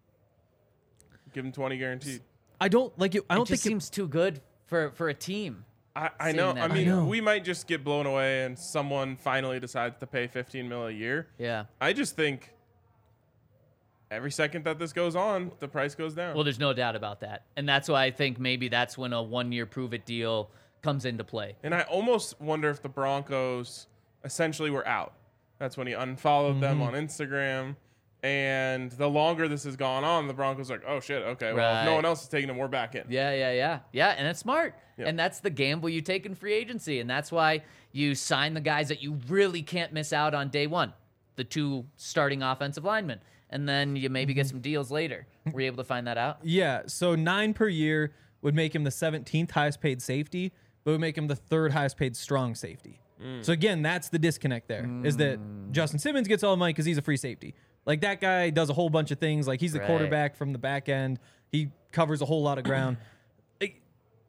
give him twenty guaranteed. I don't like it. I It don't just think. seems too good for for a team. I, I Seeing know. that I mean, I know. we might just get blown away and someone finally decides to pay fifteen mil a year. Yeah. I just think every second that this goes on, the price goes down. Well, there's no doubt about that, and that's why I think maybe that's when a one-year prove-it deal comes into play. and I almost wonder if the Broncos essentially were out. That's when he unfollowed them Mm-hmm. on Instagram. And the longer this has gone on, the Broncos are like, oh shit, okay, well, if no Right. one else is taking him, we're back in. Yeah, yeah, yeah. Yeah, and it's smart. Yeah. And that's the gamble you take in free agency. And that's why you sign the guys that you really can't miss out on day one, the two starting offensive linemen. And then you maybe Mm-hmm. get some deals later. Were you able to find that out? Yeah. So nine per year would make him the seventeenth highest paid safety, but would make him the third highest paid strong safety. Mm. So again, that's the disconnect there. Is that Justin Simmons gets all the money because he's a free safety. Like that guy does a whole bunch of things. Like he's the Right. quarterback from the back end. He covers a whole lot of ground. Like,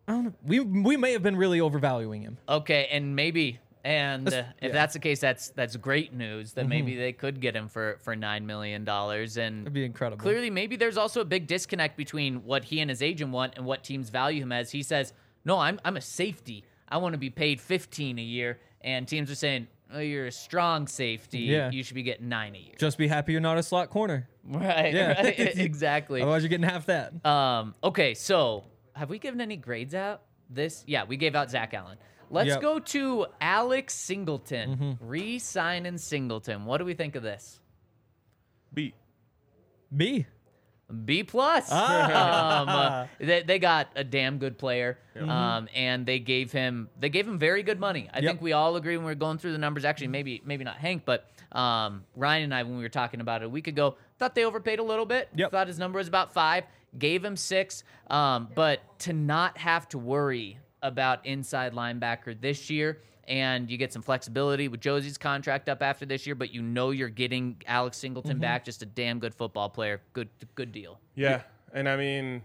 I don't know. We we may have been really overvaluing him. Okay, and maybe, and uh, That's- if yeah. that's the case, that's that's great news. That maybe they could get him for for nine million dollars, and That'd be incredible. clearly, maybe there's also a big disconnect between what he and his agent want and what teams value him as. He says, "No, I'm I'm a safety. I want to be paid fifteen a year," and teams are saying, "Oh, you're a strong safety. Yeah. You should be getting nine a year." Just be happy you're not a slot corner. Right. Yeah. Right. Exactly. Otherwise, you're getting half that. Um, okay, so have we given any grades out? This, yeah, we gave out Zach Allen. Let's Yep. go to Alex Singleton, re-signing Singleton. What do we think of this? B. B. B plus. Ah. Um, uh, they, they got a damn good player, um, and they gave him they gave him very good money. I Yep. think we all agree when we were going through the numbers. Actually, maybe maybe not Hank, but um, Ryan and I, when we were talking about it a week ago, thought they overpaid a little bit. Yep. Thought his number was about five. Gave him six. Um, but to not have to worry about inside linebacker this year. And you get some flexibility with Josie's contract up after this year, but you know you're getting Alex Singleton back, just a damn good football player. Good good deal. Yeah, and I mean,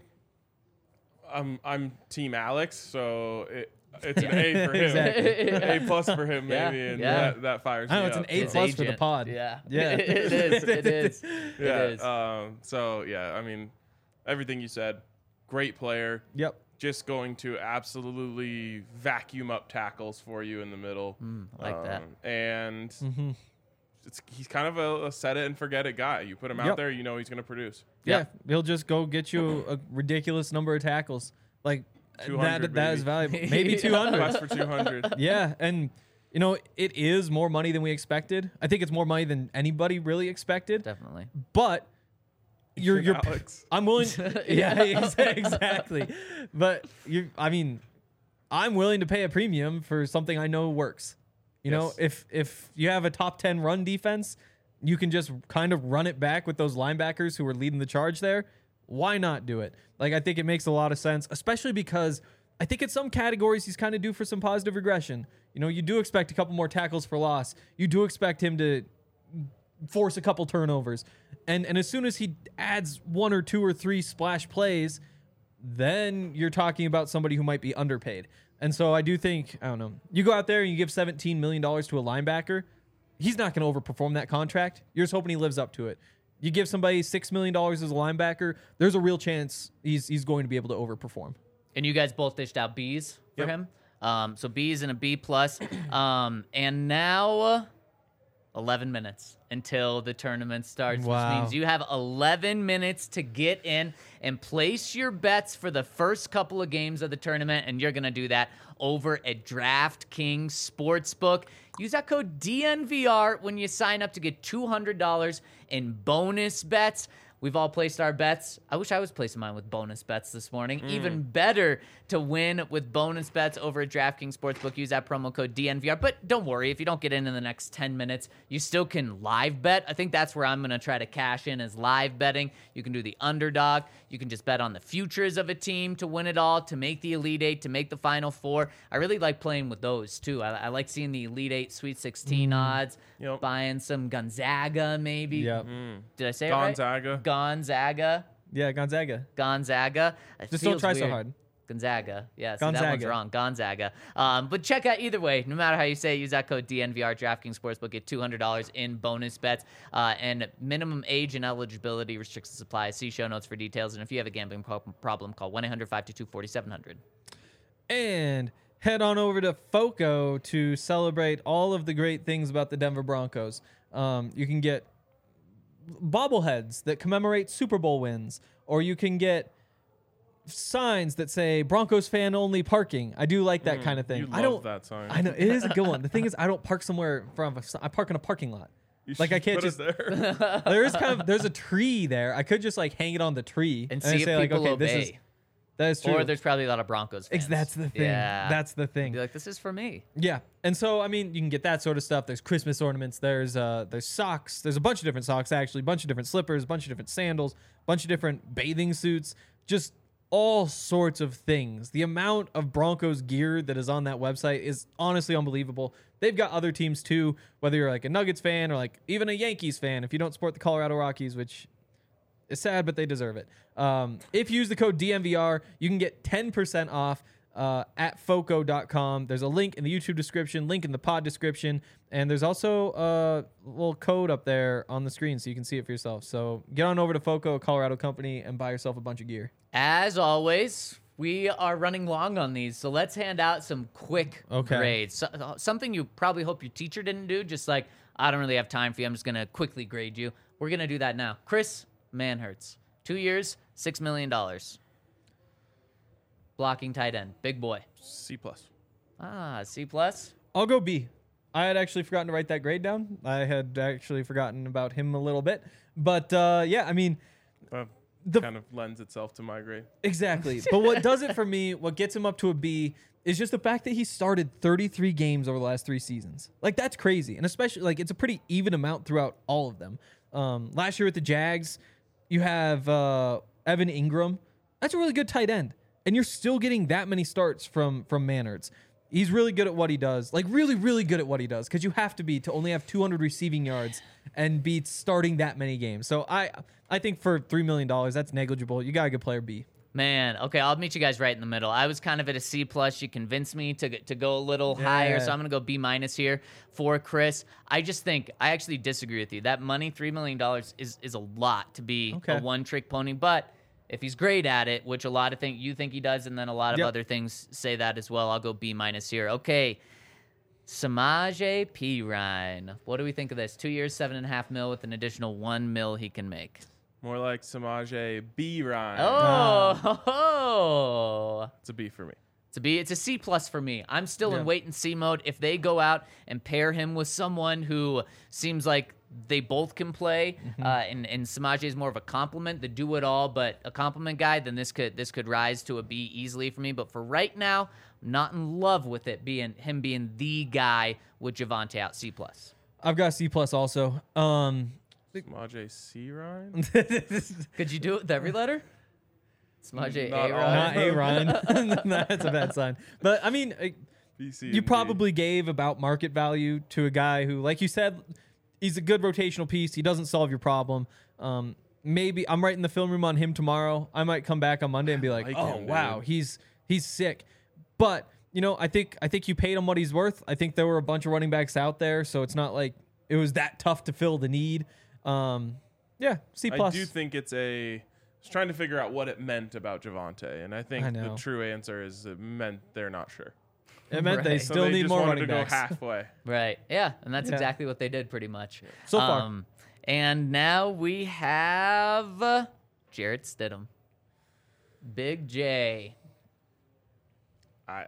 I'm I'm Team Alex, so it, it's an A for him, Exactly. A plus for him Yeah, maybe, and yeah. that, that fires I know me it's an up, A His so- plus for the agent. pod. Yeah. Yeah. it is. It is. Yeah. It is. Um. So yeah, I mean, everything you said, great player. Yep. Just going to absolutely vacuum up tackles for you in the middle. Mm, I like that. Um, And Mm-hmm. it's, he's kind of a, a set it and forget it guy. You put him out Yep. there, you know he's going to produce. Yeah. Yep. He'll just go get you a ridiculous number of tackles. Like two that. hundred That is maybe. valuable. Maybe two hundred. Quest for two hundred. Yeah, and you know it is more money than we expected. I think it's more money than anybody really expected. Definitely. But you're Even you're Alex. I'm willing. Yeah, ex- exactly. But you, I mean, I'm willing to pay a premium for something I know works. You know, Yes. if if you have a top ten run defense, you can just kind of run it back with those linebackers who are leading the charge there. Why not do it? Like, I think it makes a lot of sense, especially because I think in some categories he's kind of due for some positive regression. You know, you do expect a couple more tackles for loss. You do expect him to force a couple turnovers. And and as soon as he adds one or two or three splash plays, then you're talking about somebody who might be underpaid. And so I do think, I don't know, you go out there and you give seventeen million dollars to a linebacker, he's not going to overperform that contract. You're just hoping he lives up to it. You give somebody six million dollars as a linebacker, there's a real chance he's he's going to be able to overperform. And you guys both dished out B's for Yep. him. Um, so B's and a B plus. Um, and now eleven minutes until the tournament starts, Wow. which means you have eleven minutes to get in and place your bets for the first couple of games of the tournament. And you're going to do that over at DraftKings Sportsbook. Use that code D N V R when you sign up to get two hundred dollars in bonus bets. We've all placed our bets. I wish I was placing mine with bonus bets this morning. Even better to win with bonus bets over at DraftKings Sportsbook. Use that promo code D N V R. But don't worry, if you don't get in in the next ten minutes, you still can live bet. I think that's where I'm going to try to cash in is live betting. You can do the underdog. You can just bet on the futures of a team to win it all, to make the Elite Eight, to make the Final Four. I really like playing with those, too. I, I like seeing the Elite Eight, Sweet sixteen odds, Yep. buying some Gonzaga maybe. Yeah. Did I say it right? Gonzaga. Gonzaga. Yeah, Gonzaga. Gonzaga. It Just don't feels try so weird. hard. Gonzaga. Yeah, see, that one's Gonzaga. wrong. Gonzaga. Um, but check out either way. No matter how you say it, use that code D N V R. DraftKings Sportsbook. Get two hundred dollars in bonus bets. Uh, and minimum age and eligibility restrictions apply. See show notes for details. And if you have a gambling pro- problem, call one eight hundred five two two four seven zero zero. And head on over to FOCO to celebrate all of the great things about the Denver Broncos. Um, you can get bobbleheads that commemorate Super Bowl wins, or you can get signs that say Broncos fan only parking. I do like that kind of thing. You I love don't. that sign. I know it is a good one. The thing is, I don't park somewhere from. A, I park in a parking lot. You Like, I should can't put just- it there. There is kind of there's a tree there. I could just like hang it on the tree And I see if say like, people okay, this obey. is that is true. Or there's probably a lot of Broncos fans. Ex- that's the thing. Yeah. That's the thing. Be like, this is for me. Yeah, and so I mean, you can get that sort of stuff. There's Christmas ornaments. There's uh, there's socks. There's a bunch of different socks actually. A bunch of different slippers. A bunch of different sandals. A bunch of different bathing suits. Just all sorts of things. The amount of Broncos gear that is on that website is honestly unbelievable. They've got other teams too. Whether you're like a Nuggets fan or like even a Yankees fan, if you don't support the Colorado Rockies, which is sad, but they deserve it. Um, if you use the code D N V R, you can get ten percent off uh, at foco dot com. There's a link in the YouTube description, link in the pod description, and there's also a little code up there on the screen so you can see it for yourself. So get on over to Foco, a Colorado company, and buy yourself a bunch of gear. As always, we are running long on these, so let's hand out some quick Okay. grades. So, something you probably hope your teacher didn't do, just like, I don't really have time for you, I'm just going to quickly grade you. We're going to do that now. Chris Manhertz, two years, six million dollars. Blocking tight end, big boy. C plus. Ah, C plus. I'll go B. I had actually forgotten to write that grade down. I had actually forgotten about him a little bit. But, uh, yeah, I mean... Uh, The- kind of lends itself to my grade. Exactly. But what does it for me, what gets him up to a B, is just the fact that he started thirty-three games over the last three seasons. Like, that's crazy. And especially, like, it's a pretty even amount throughout all of them. Um, last year with the Jags, you have uh, Evan Ingram. That's a really good tight end. And you're still getting that many starts from, from Manhertz. He's really good at what he does. Like, really, really good at what he does. Because you have to be to only have two hundred receiving yards and be starting that many games. So I I think for three million dollars, that's negligible. You got a good player B. Man, okay, I'll meet you guys right in the middle. I was kind of at a C plus. You convinced me to to go a little higher, so Yeah. I'm gonna go B minus here for Chris. I just think I actually disagree with you. That money, three million dollars, is is a lot to be Okay. a one trick pony. But if he's great at it, which a lot of think you think he does, and then a lot of Yep. other things say that as well, I'll go B minus here. Okay. Samaje Perine. What do we think of this? Two years, seven and a half mil with an additional one mil he can make. More like Samaje B. Ryan. Oh, It's a B for me. It's a B. It's a C plus for me. I'm still Yeah. in wait and see mode. If they go out and pair him with someone who seems like they both can play, Mm-hmm. uh, and and Samaje is more of a compliment, the do it all, but a compliment guy, then this could this could rise to a B easily for me. But for right now, I'm not in love with it being him being the guy with Javonte out. C plus. I've got C plus also. Um, Samaje C. Ryan? Could you do it with every letter? Samaje Not A. all. Ryan. not A Ryan. That's a bad sign. But I mean, uh, B, C, you and D. probably gave about market value to a guy who, like you said, he's a good rotational piece. He doesn't solve your problem. Um, maybe I'm writing the film room on him tomorrow. I might come back on Monday and be like, like oh him, wow, dude. he's he's sick. But you know, I think I think you paid him what he's worth. I think there were a bunch of running backs out there, so it's not like it was that tough to fill the need. Um, yeah, C I plus. do think it's a. I was trying to figure out what it meant about Javonte, and I think I the know. true answer is it meant they're not sure. It meant they Right. So still they need just more wanted running to backs. go halfway. Right. Yeah, and that's Yeah. exactly what they did pretty much. So far. Um, and now we have uh, Jarrett Stidham. Big J. I.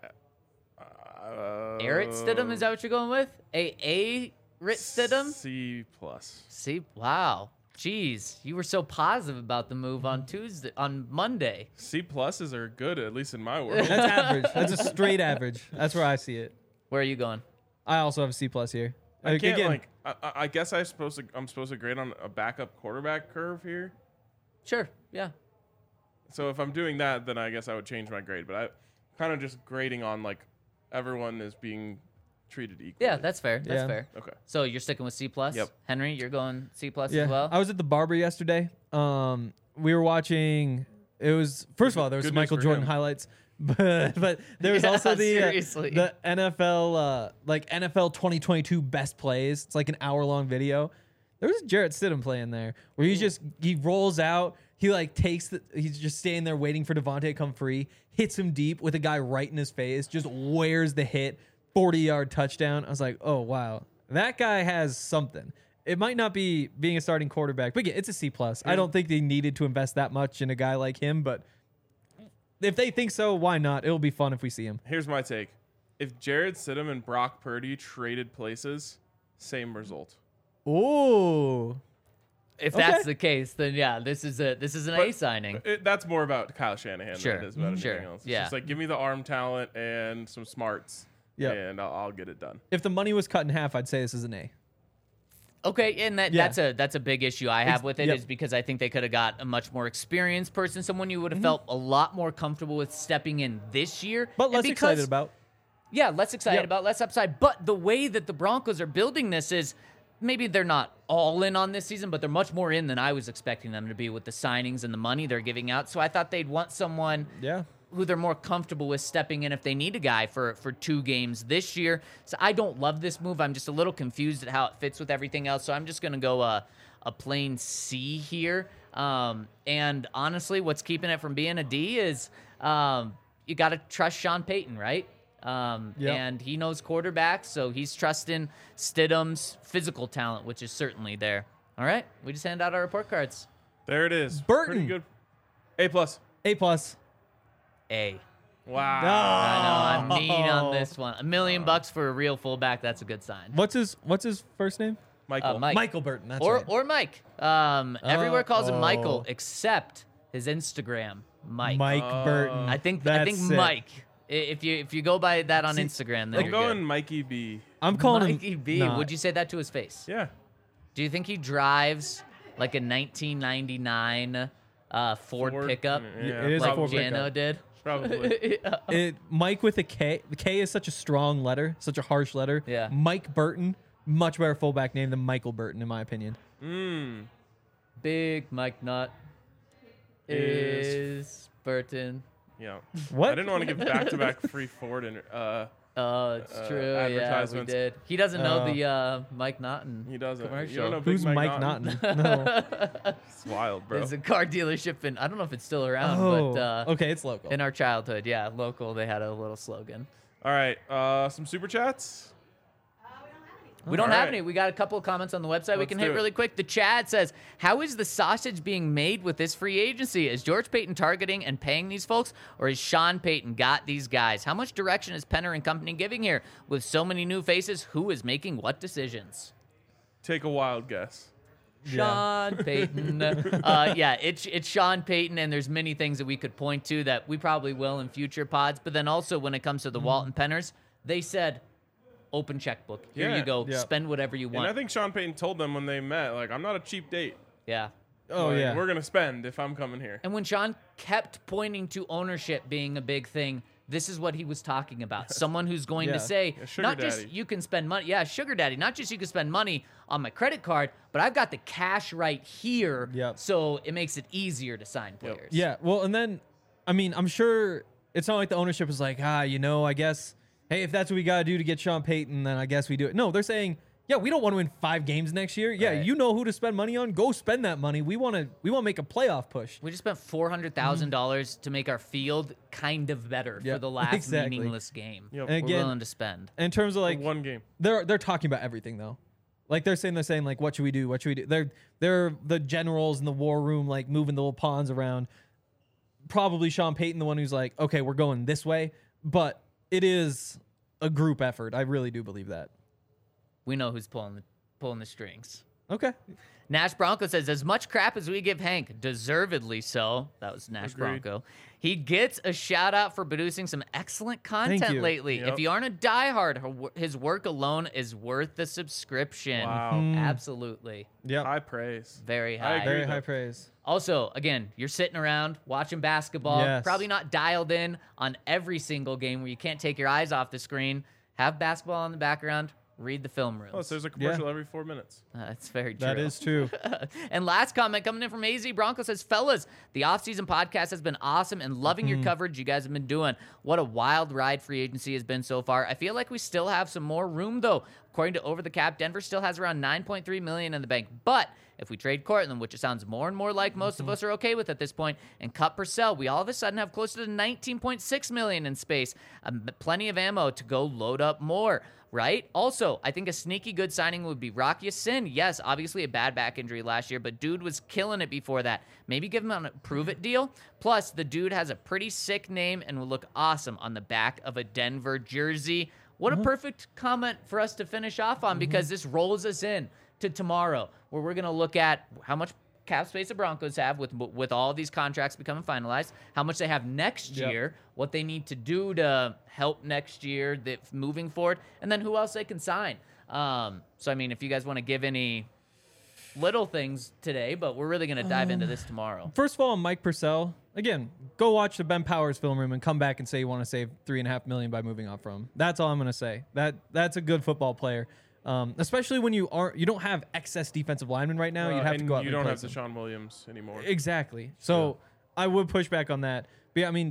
Uh, Jarrett Stidham, is that what you're going with? A A Rit Stidham? C plus. See, wow. Jeez, you were so positive about the move on Tuesday, on Monday. C pluses are good, at least in my world. That's average. That's a straight average. That's where I see it. Where are you going? I also have a C plus here. I can't Again, like. I, I I guess I'm supposed to. I'm supposed to grade on a backup quarterback curve here. Sure, yeah. So if I'm doing that, then I guess I would change my grade. But I kind of just grading on like everyone is being treated equally. Yeah, that's fair. That's Yeah. fair. okay. So you're sticking with C plus? Yep. Henry, you're going C plus yeah, as well? I was at the barber yesterday. Um, we were watching. It was first of all there was Good some news Michael for Jordan him. highlights, but but there was Yeah, also the uh, seriously. the N F L uh, like N F L twenty twenty-two best plays. It's like an hour long video. There was Jarrett Stidham playing there where he just he rolls out. He like takes the. He's just standing there waiting for Devontae to come free. Hits him deep with a guy right in his face. Just wears the hit. forty yard touchdown. I was like, oh wow, that guy has something. It might not be being a starting quarterback, but yeah, it's a C plus. I don't think they needed to invest that much in a guy like him, but if they think so, why not? It'll be fun if we see him. Here's my take. If Jared Stidham and Brock Purdy traded places, same result. Ooh, If Okay. that's the case, then yeah, this is a this is an A But- signing. It, that's more about Kyle Shanahan Sure. than it is about Sure. anything else. It's Yeah. just like give me the arm talent and some smarts, Yep. and I'll, I'll get it done. if the money was cut in half, I'd say this is an A. Okay, and that Yeah. that's a that's a big issue I have Ex- with it yep. is because I think they could have got a much more experienced person, someone you would have Mm-hmm. felt a lot more comfortable with stepping in this year. But And less because- excited about. Yeah, less excited Yep. about, less upside. But the way that the Broncos are building this is maybe they're not all in on this season, but they're much more in than I was expecting them to be with the signings and the money they're giving out. So I thought they'd want someone Yeah. who they're more comfortable with stepping in if they need a guy for, for two games this year. So I don't love this move. I'm just a little confused at how it fits with everything else. So I'm just going to go uh, a plain C here. Um, and honestly, what's keeping it from being a D is um, you got to trust Sean Payton, right? Um, Yep. And he knows quarterbacks, so he's trusting Stidham's physical talent, which is certainly there. All right, we just hand out our report cards. There it is. Burton. Pretty good. A plus. A plus. A. Wow. I know, I'm mean Oh. on this one. A million bucks for a real fullback, that's a good sign. What's his What's his first name? Michael. Uh, Mike. Michael Burton. That's or right. or Mike. Um, everywhere calls him Michael oh. except his Instagram, Mike. Mike Oh. Burton. I think I That's think sick. Mike. I- If you if you go by that on See, Instagram, then I'm you're going good. Mikey B. I'm calling Mikey him. B. Nah. Would you say that to his face? Yeah. Do you think he drives like a nineteen ninety-nine uh, Ford, Ford- pickup, Yeah, It is a like Ford Jano pickup. did? Probably. It, Mike with a K. The K is such a strong letter, such a harsh letter. Yeah. Mike Burton, much better fullback name than Michael Burton, in my opinion. Mm. Big Mike Nut Is- is Burton. Yeah. What? I didn't want to give back-to-back free Ford and uh, Oh, it's Uh, true. Yeah, we advertisements. did. He doesn't know Oh. the uh, Mike Naughton. he doesn't. You Commercial. don't know Big Who's Mike Naughton? Naughton? No. It's wild, bro. There's a car dealership in, I don't know if it's still around, Oh, but uh, okay, it's local. in our childhood, yeah, local, they had a little slogan. All right. Uh, some super chats. We don't All have right. any. We got a couple of comments on the website we Let's can do hit it. really quick. The chat says, how is the sausage being made with this free agency? Is George Payton targeting and paying these folks, or is Sean Payton got these guys? How much direction is Penner and company giving here? With so many new faces, who is making what decisions? Take a wild guess. Sean Payton. uh, yeah, it's it's Sean Payton, and there's many things that we could point to that we probably will in future pods. But then also when it comes to the Walton Penners, they said, open checkbook. Here Yeah. you go. Yeah. Spend whatever you And want. I think Sean Payton told them when they met, like, I'm not a cheap date. yeah. oh, Like, yeah. We're gonna spend if I'm coming here. And when Sean kept pointing to ownership being a big thing, this is what he was talking about. Someone who's going Yeah. to say, A sugar not just daddy. you can spend money. Yeah, sugar daddy. Not just you can spend money on my credit card, but I've got the cash right here. Yep. So it makes it easier to sign players. Yeah, well, and then, I mean, I'm sure it's not like the ownership is like, ah, you know, I guess, hey, if that's what we got to do to get Sean Payton, then I guess we do it. No, they're saying, yeah, we don't want to win five games next year. Yeah, Right. you know who to spend money on. Go spend that money. We want to we want to make a playoff push. We just spent four hundred thousand dollars to make our field kind of better Yeah, for the last exactly. meaningless game. Yep. And We're again, willing to spend. in terms of like, One game. they're they're talking about everything though. Like they're saying they're saying like, what should we do? What should we do? They're they're the generals in the war room, like moving the little pawns around. Probably Sean Payton, the one who's like, okay, we're going this way, but it is a group effort. I really do believe that. We know who's pulling the, pulling the strings. Okay. Nash Bronco says, as much crap as we give Hank, deservedly so. That was Nash Agreed. Bronco. He gets a shout out for producing some excellent content you. lately. Yep. If you aren't a diehard, her wo- his work alone is worth the subscription. Wow. Absolutely. Yep. High praise. Very I high. agree. Very with high that. praise. Also, again, you're sitting around watching basketball, Yes. probably not dialed in on every single game where you can't take your eyes off the screen. Have basketball in the background. Read the film rooms. Plus, there's a commercial every four minutes. Uh, That's very true. That is true. And last comment coming in from A Z Bronco says, fellas, the offseason podcast has been awesome and loving Mm-hmm. your coverage you guys have been doing. What a wild ride free agency has been so far. I feel like we still have some more room, though. According to Over the Cap, Denver still has around nine point three million dollars in the bank. But if we trade Cortland, which it sounds more and more like most Mm-hmm. of us are okay with at this point, and cut Purcell, we all of a sudden have closer to nineteen point six million dollars in space. Um, plenty of ammo to go load up more. Right? Also, I think a sneaky good signing would be Rocky Sin. Yes, obviously a bad back injury last year, but dude was killing it before that. Maybe give him a prove it deal. Plus, the dude has a pretty sick name and will look awesome on the back of a Denver jersey. What a perfect comment for us to finish off on, because this rolls us in to tomorrow, where we're going to look at how much cap space the Broncos have with with all these contracts becoming finalized, how much they have next Yep. year, what they need to do to help next year that moving forward, and then who else they can sign. Um, so, I mean, if you guys want to give any little things today, but we're really going to dive into this tomorrow. First of all, Mike Purcell. Again, go watch the Ben Powers film room and come back and say you want to save three and a half million by moving on from him. That's all I'm going to say. That that's a good football player, um, especially when you aren't you don't have excess defensive linemen right now. Uh, You'd have to and go out you and don't have replace them. Deshaun Williams anymore. Exactly. So I would push back on that. But yeah, I mean,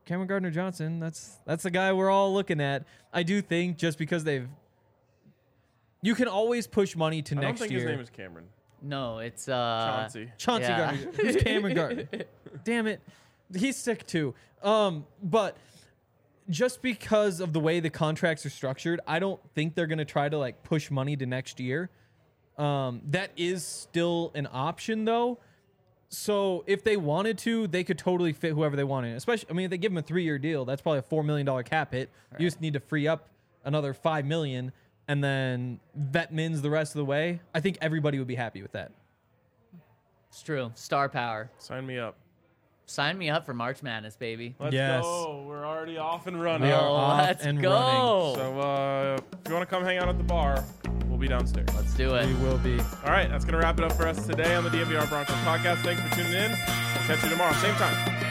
Cameron Gardner Johnson. That's that's the guy we're all looking at. I do think just because they've, you can always push money to I don't next think year. his name is Cameron. No, it's uh Chauncey. Chauncey Yeah. Gardner. Who's Cameron Gardner? Damn it. He's sick too. Um, but just because of the way the contracts are structured, I don't think they're going to try to like push money to next year. Um, that is still an option though. So if they wanted to, they could totally fit whoever they wanted. Especially, I mean, if they give him a three-year deal, that's probably a four million dollar cap hit. Right. You just need to free up another five million, and then vet Mins the rest of the way. I think everybody would be happy with that. It's true. Star power. Sign me up. Sign me up for March Madness, baby. Let's Yes. go. We're already off and running. We are Oh, off let's and go. running. So uh, if you want to come hang out at the bar, we'll be downstairs. Let's do it. We will be. All right, that's going to wrap it up for us today on the D N V R Broncos podcast. Thanks for tuning in. We'll catch you tomorrow, same time.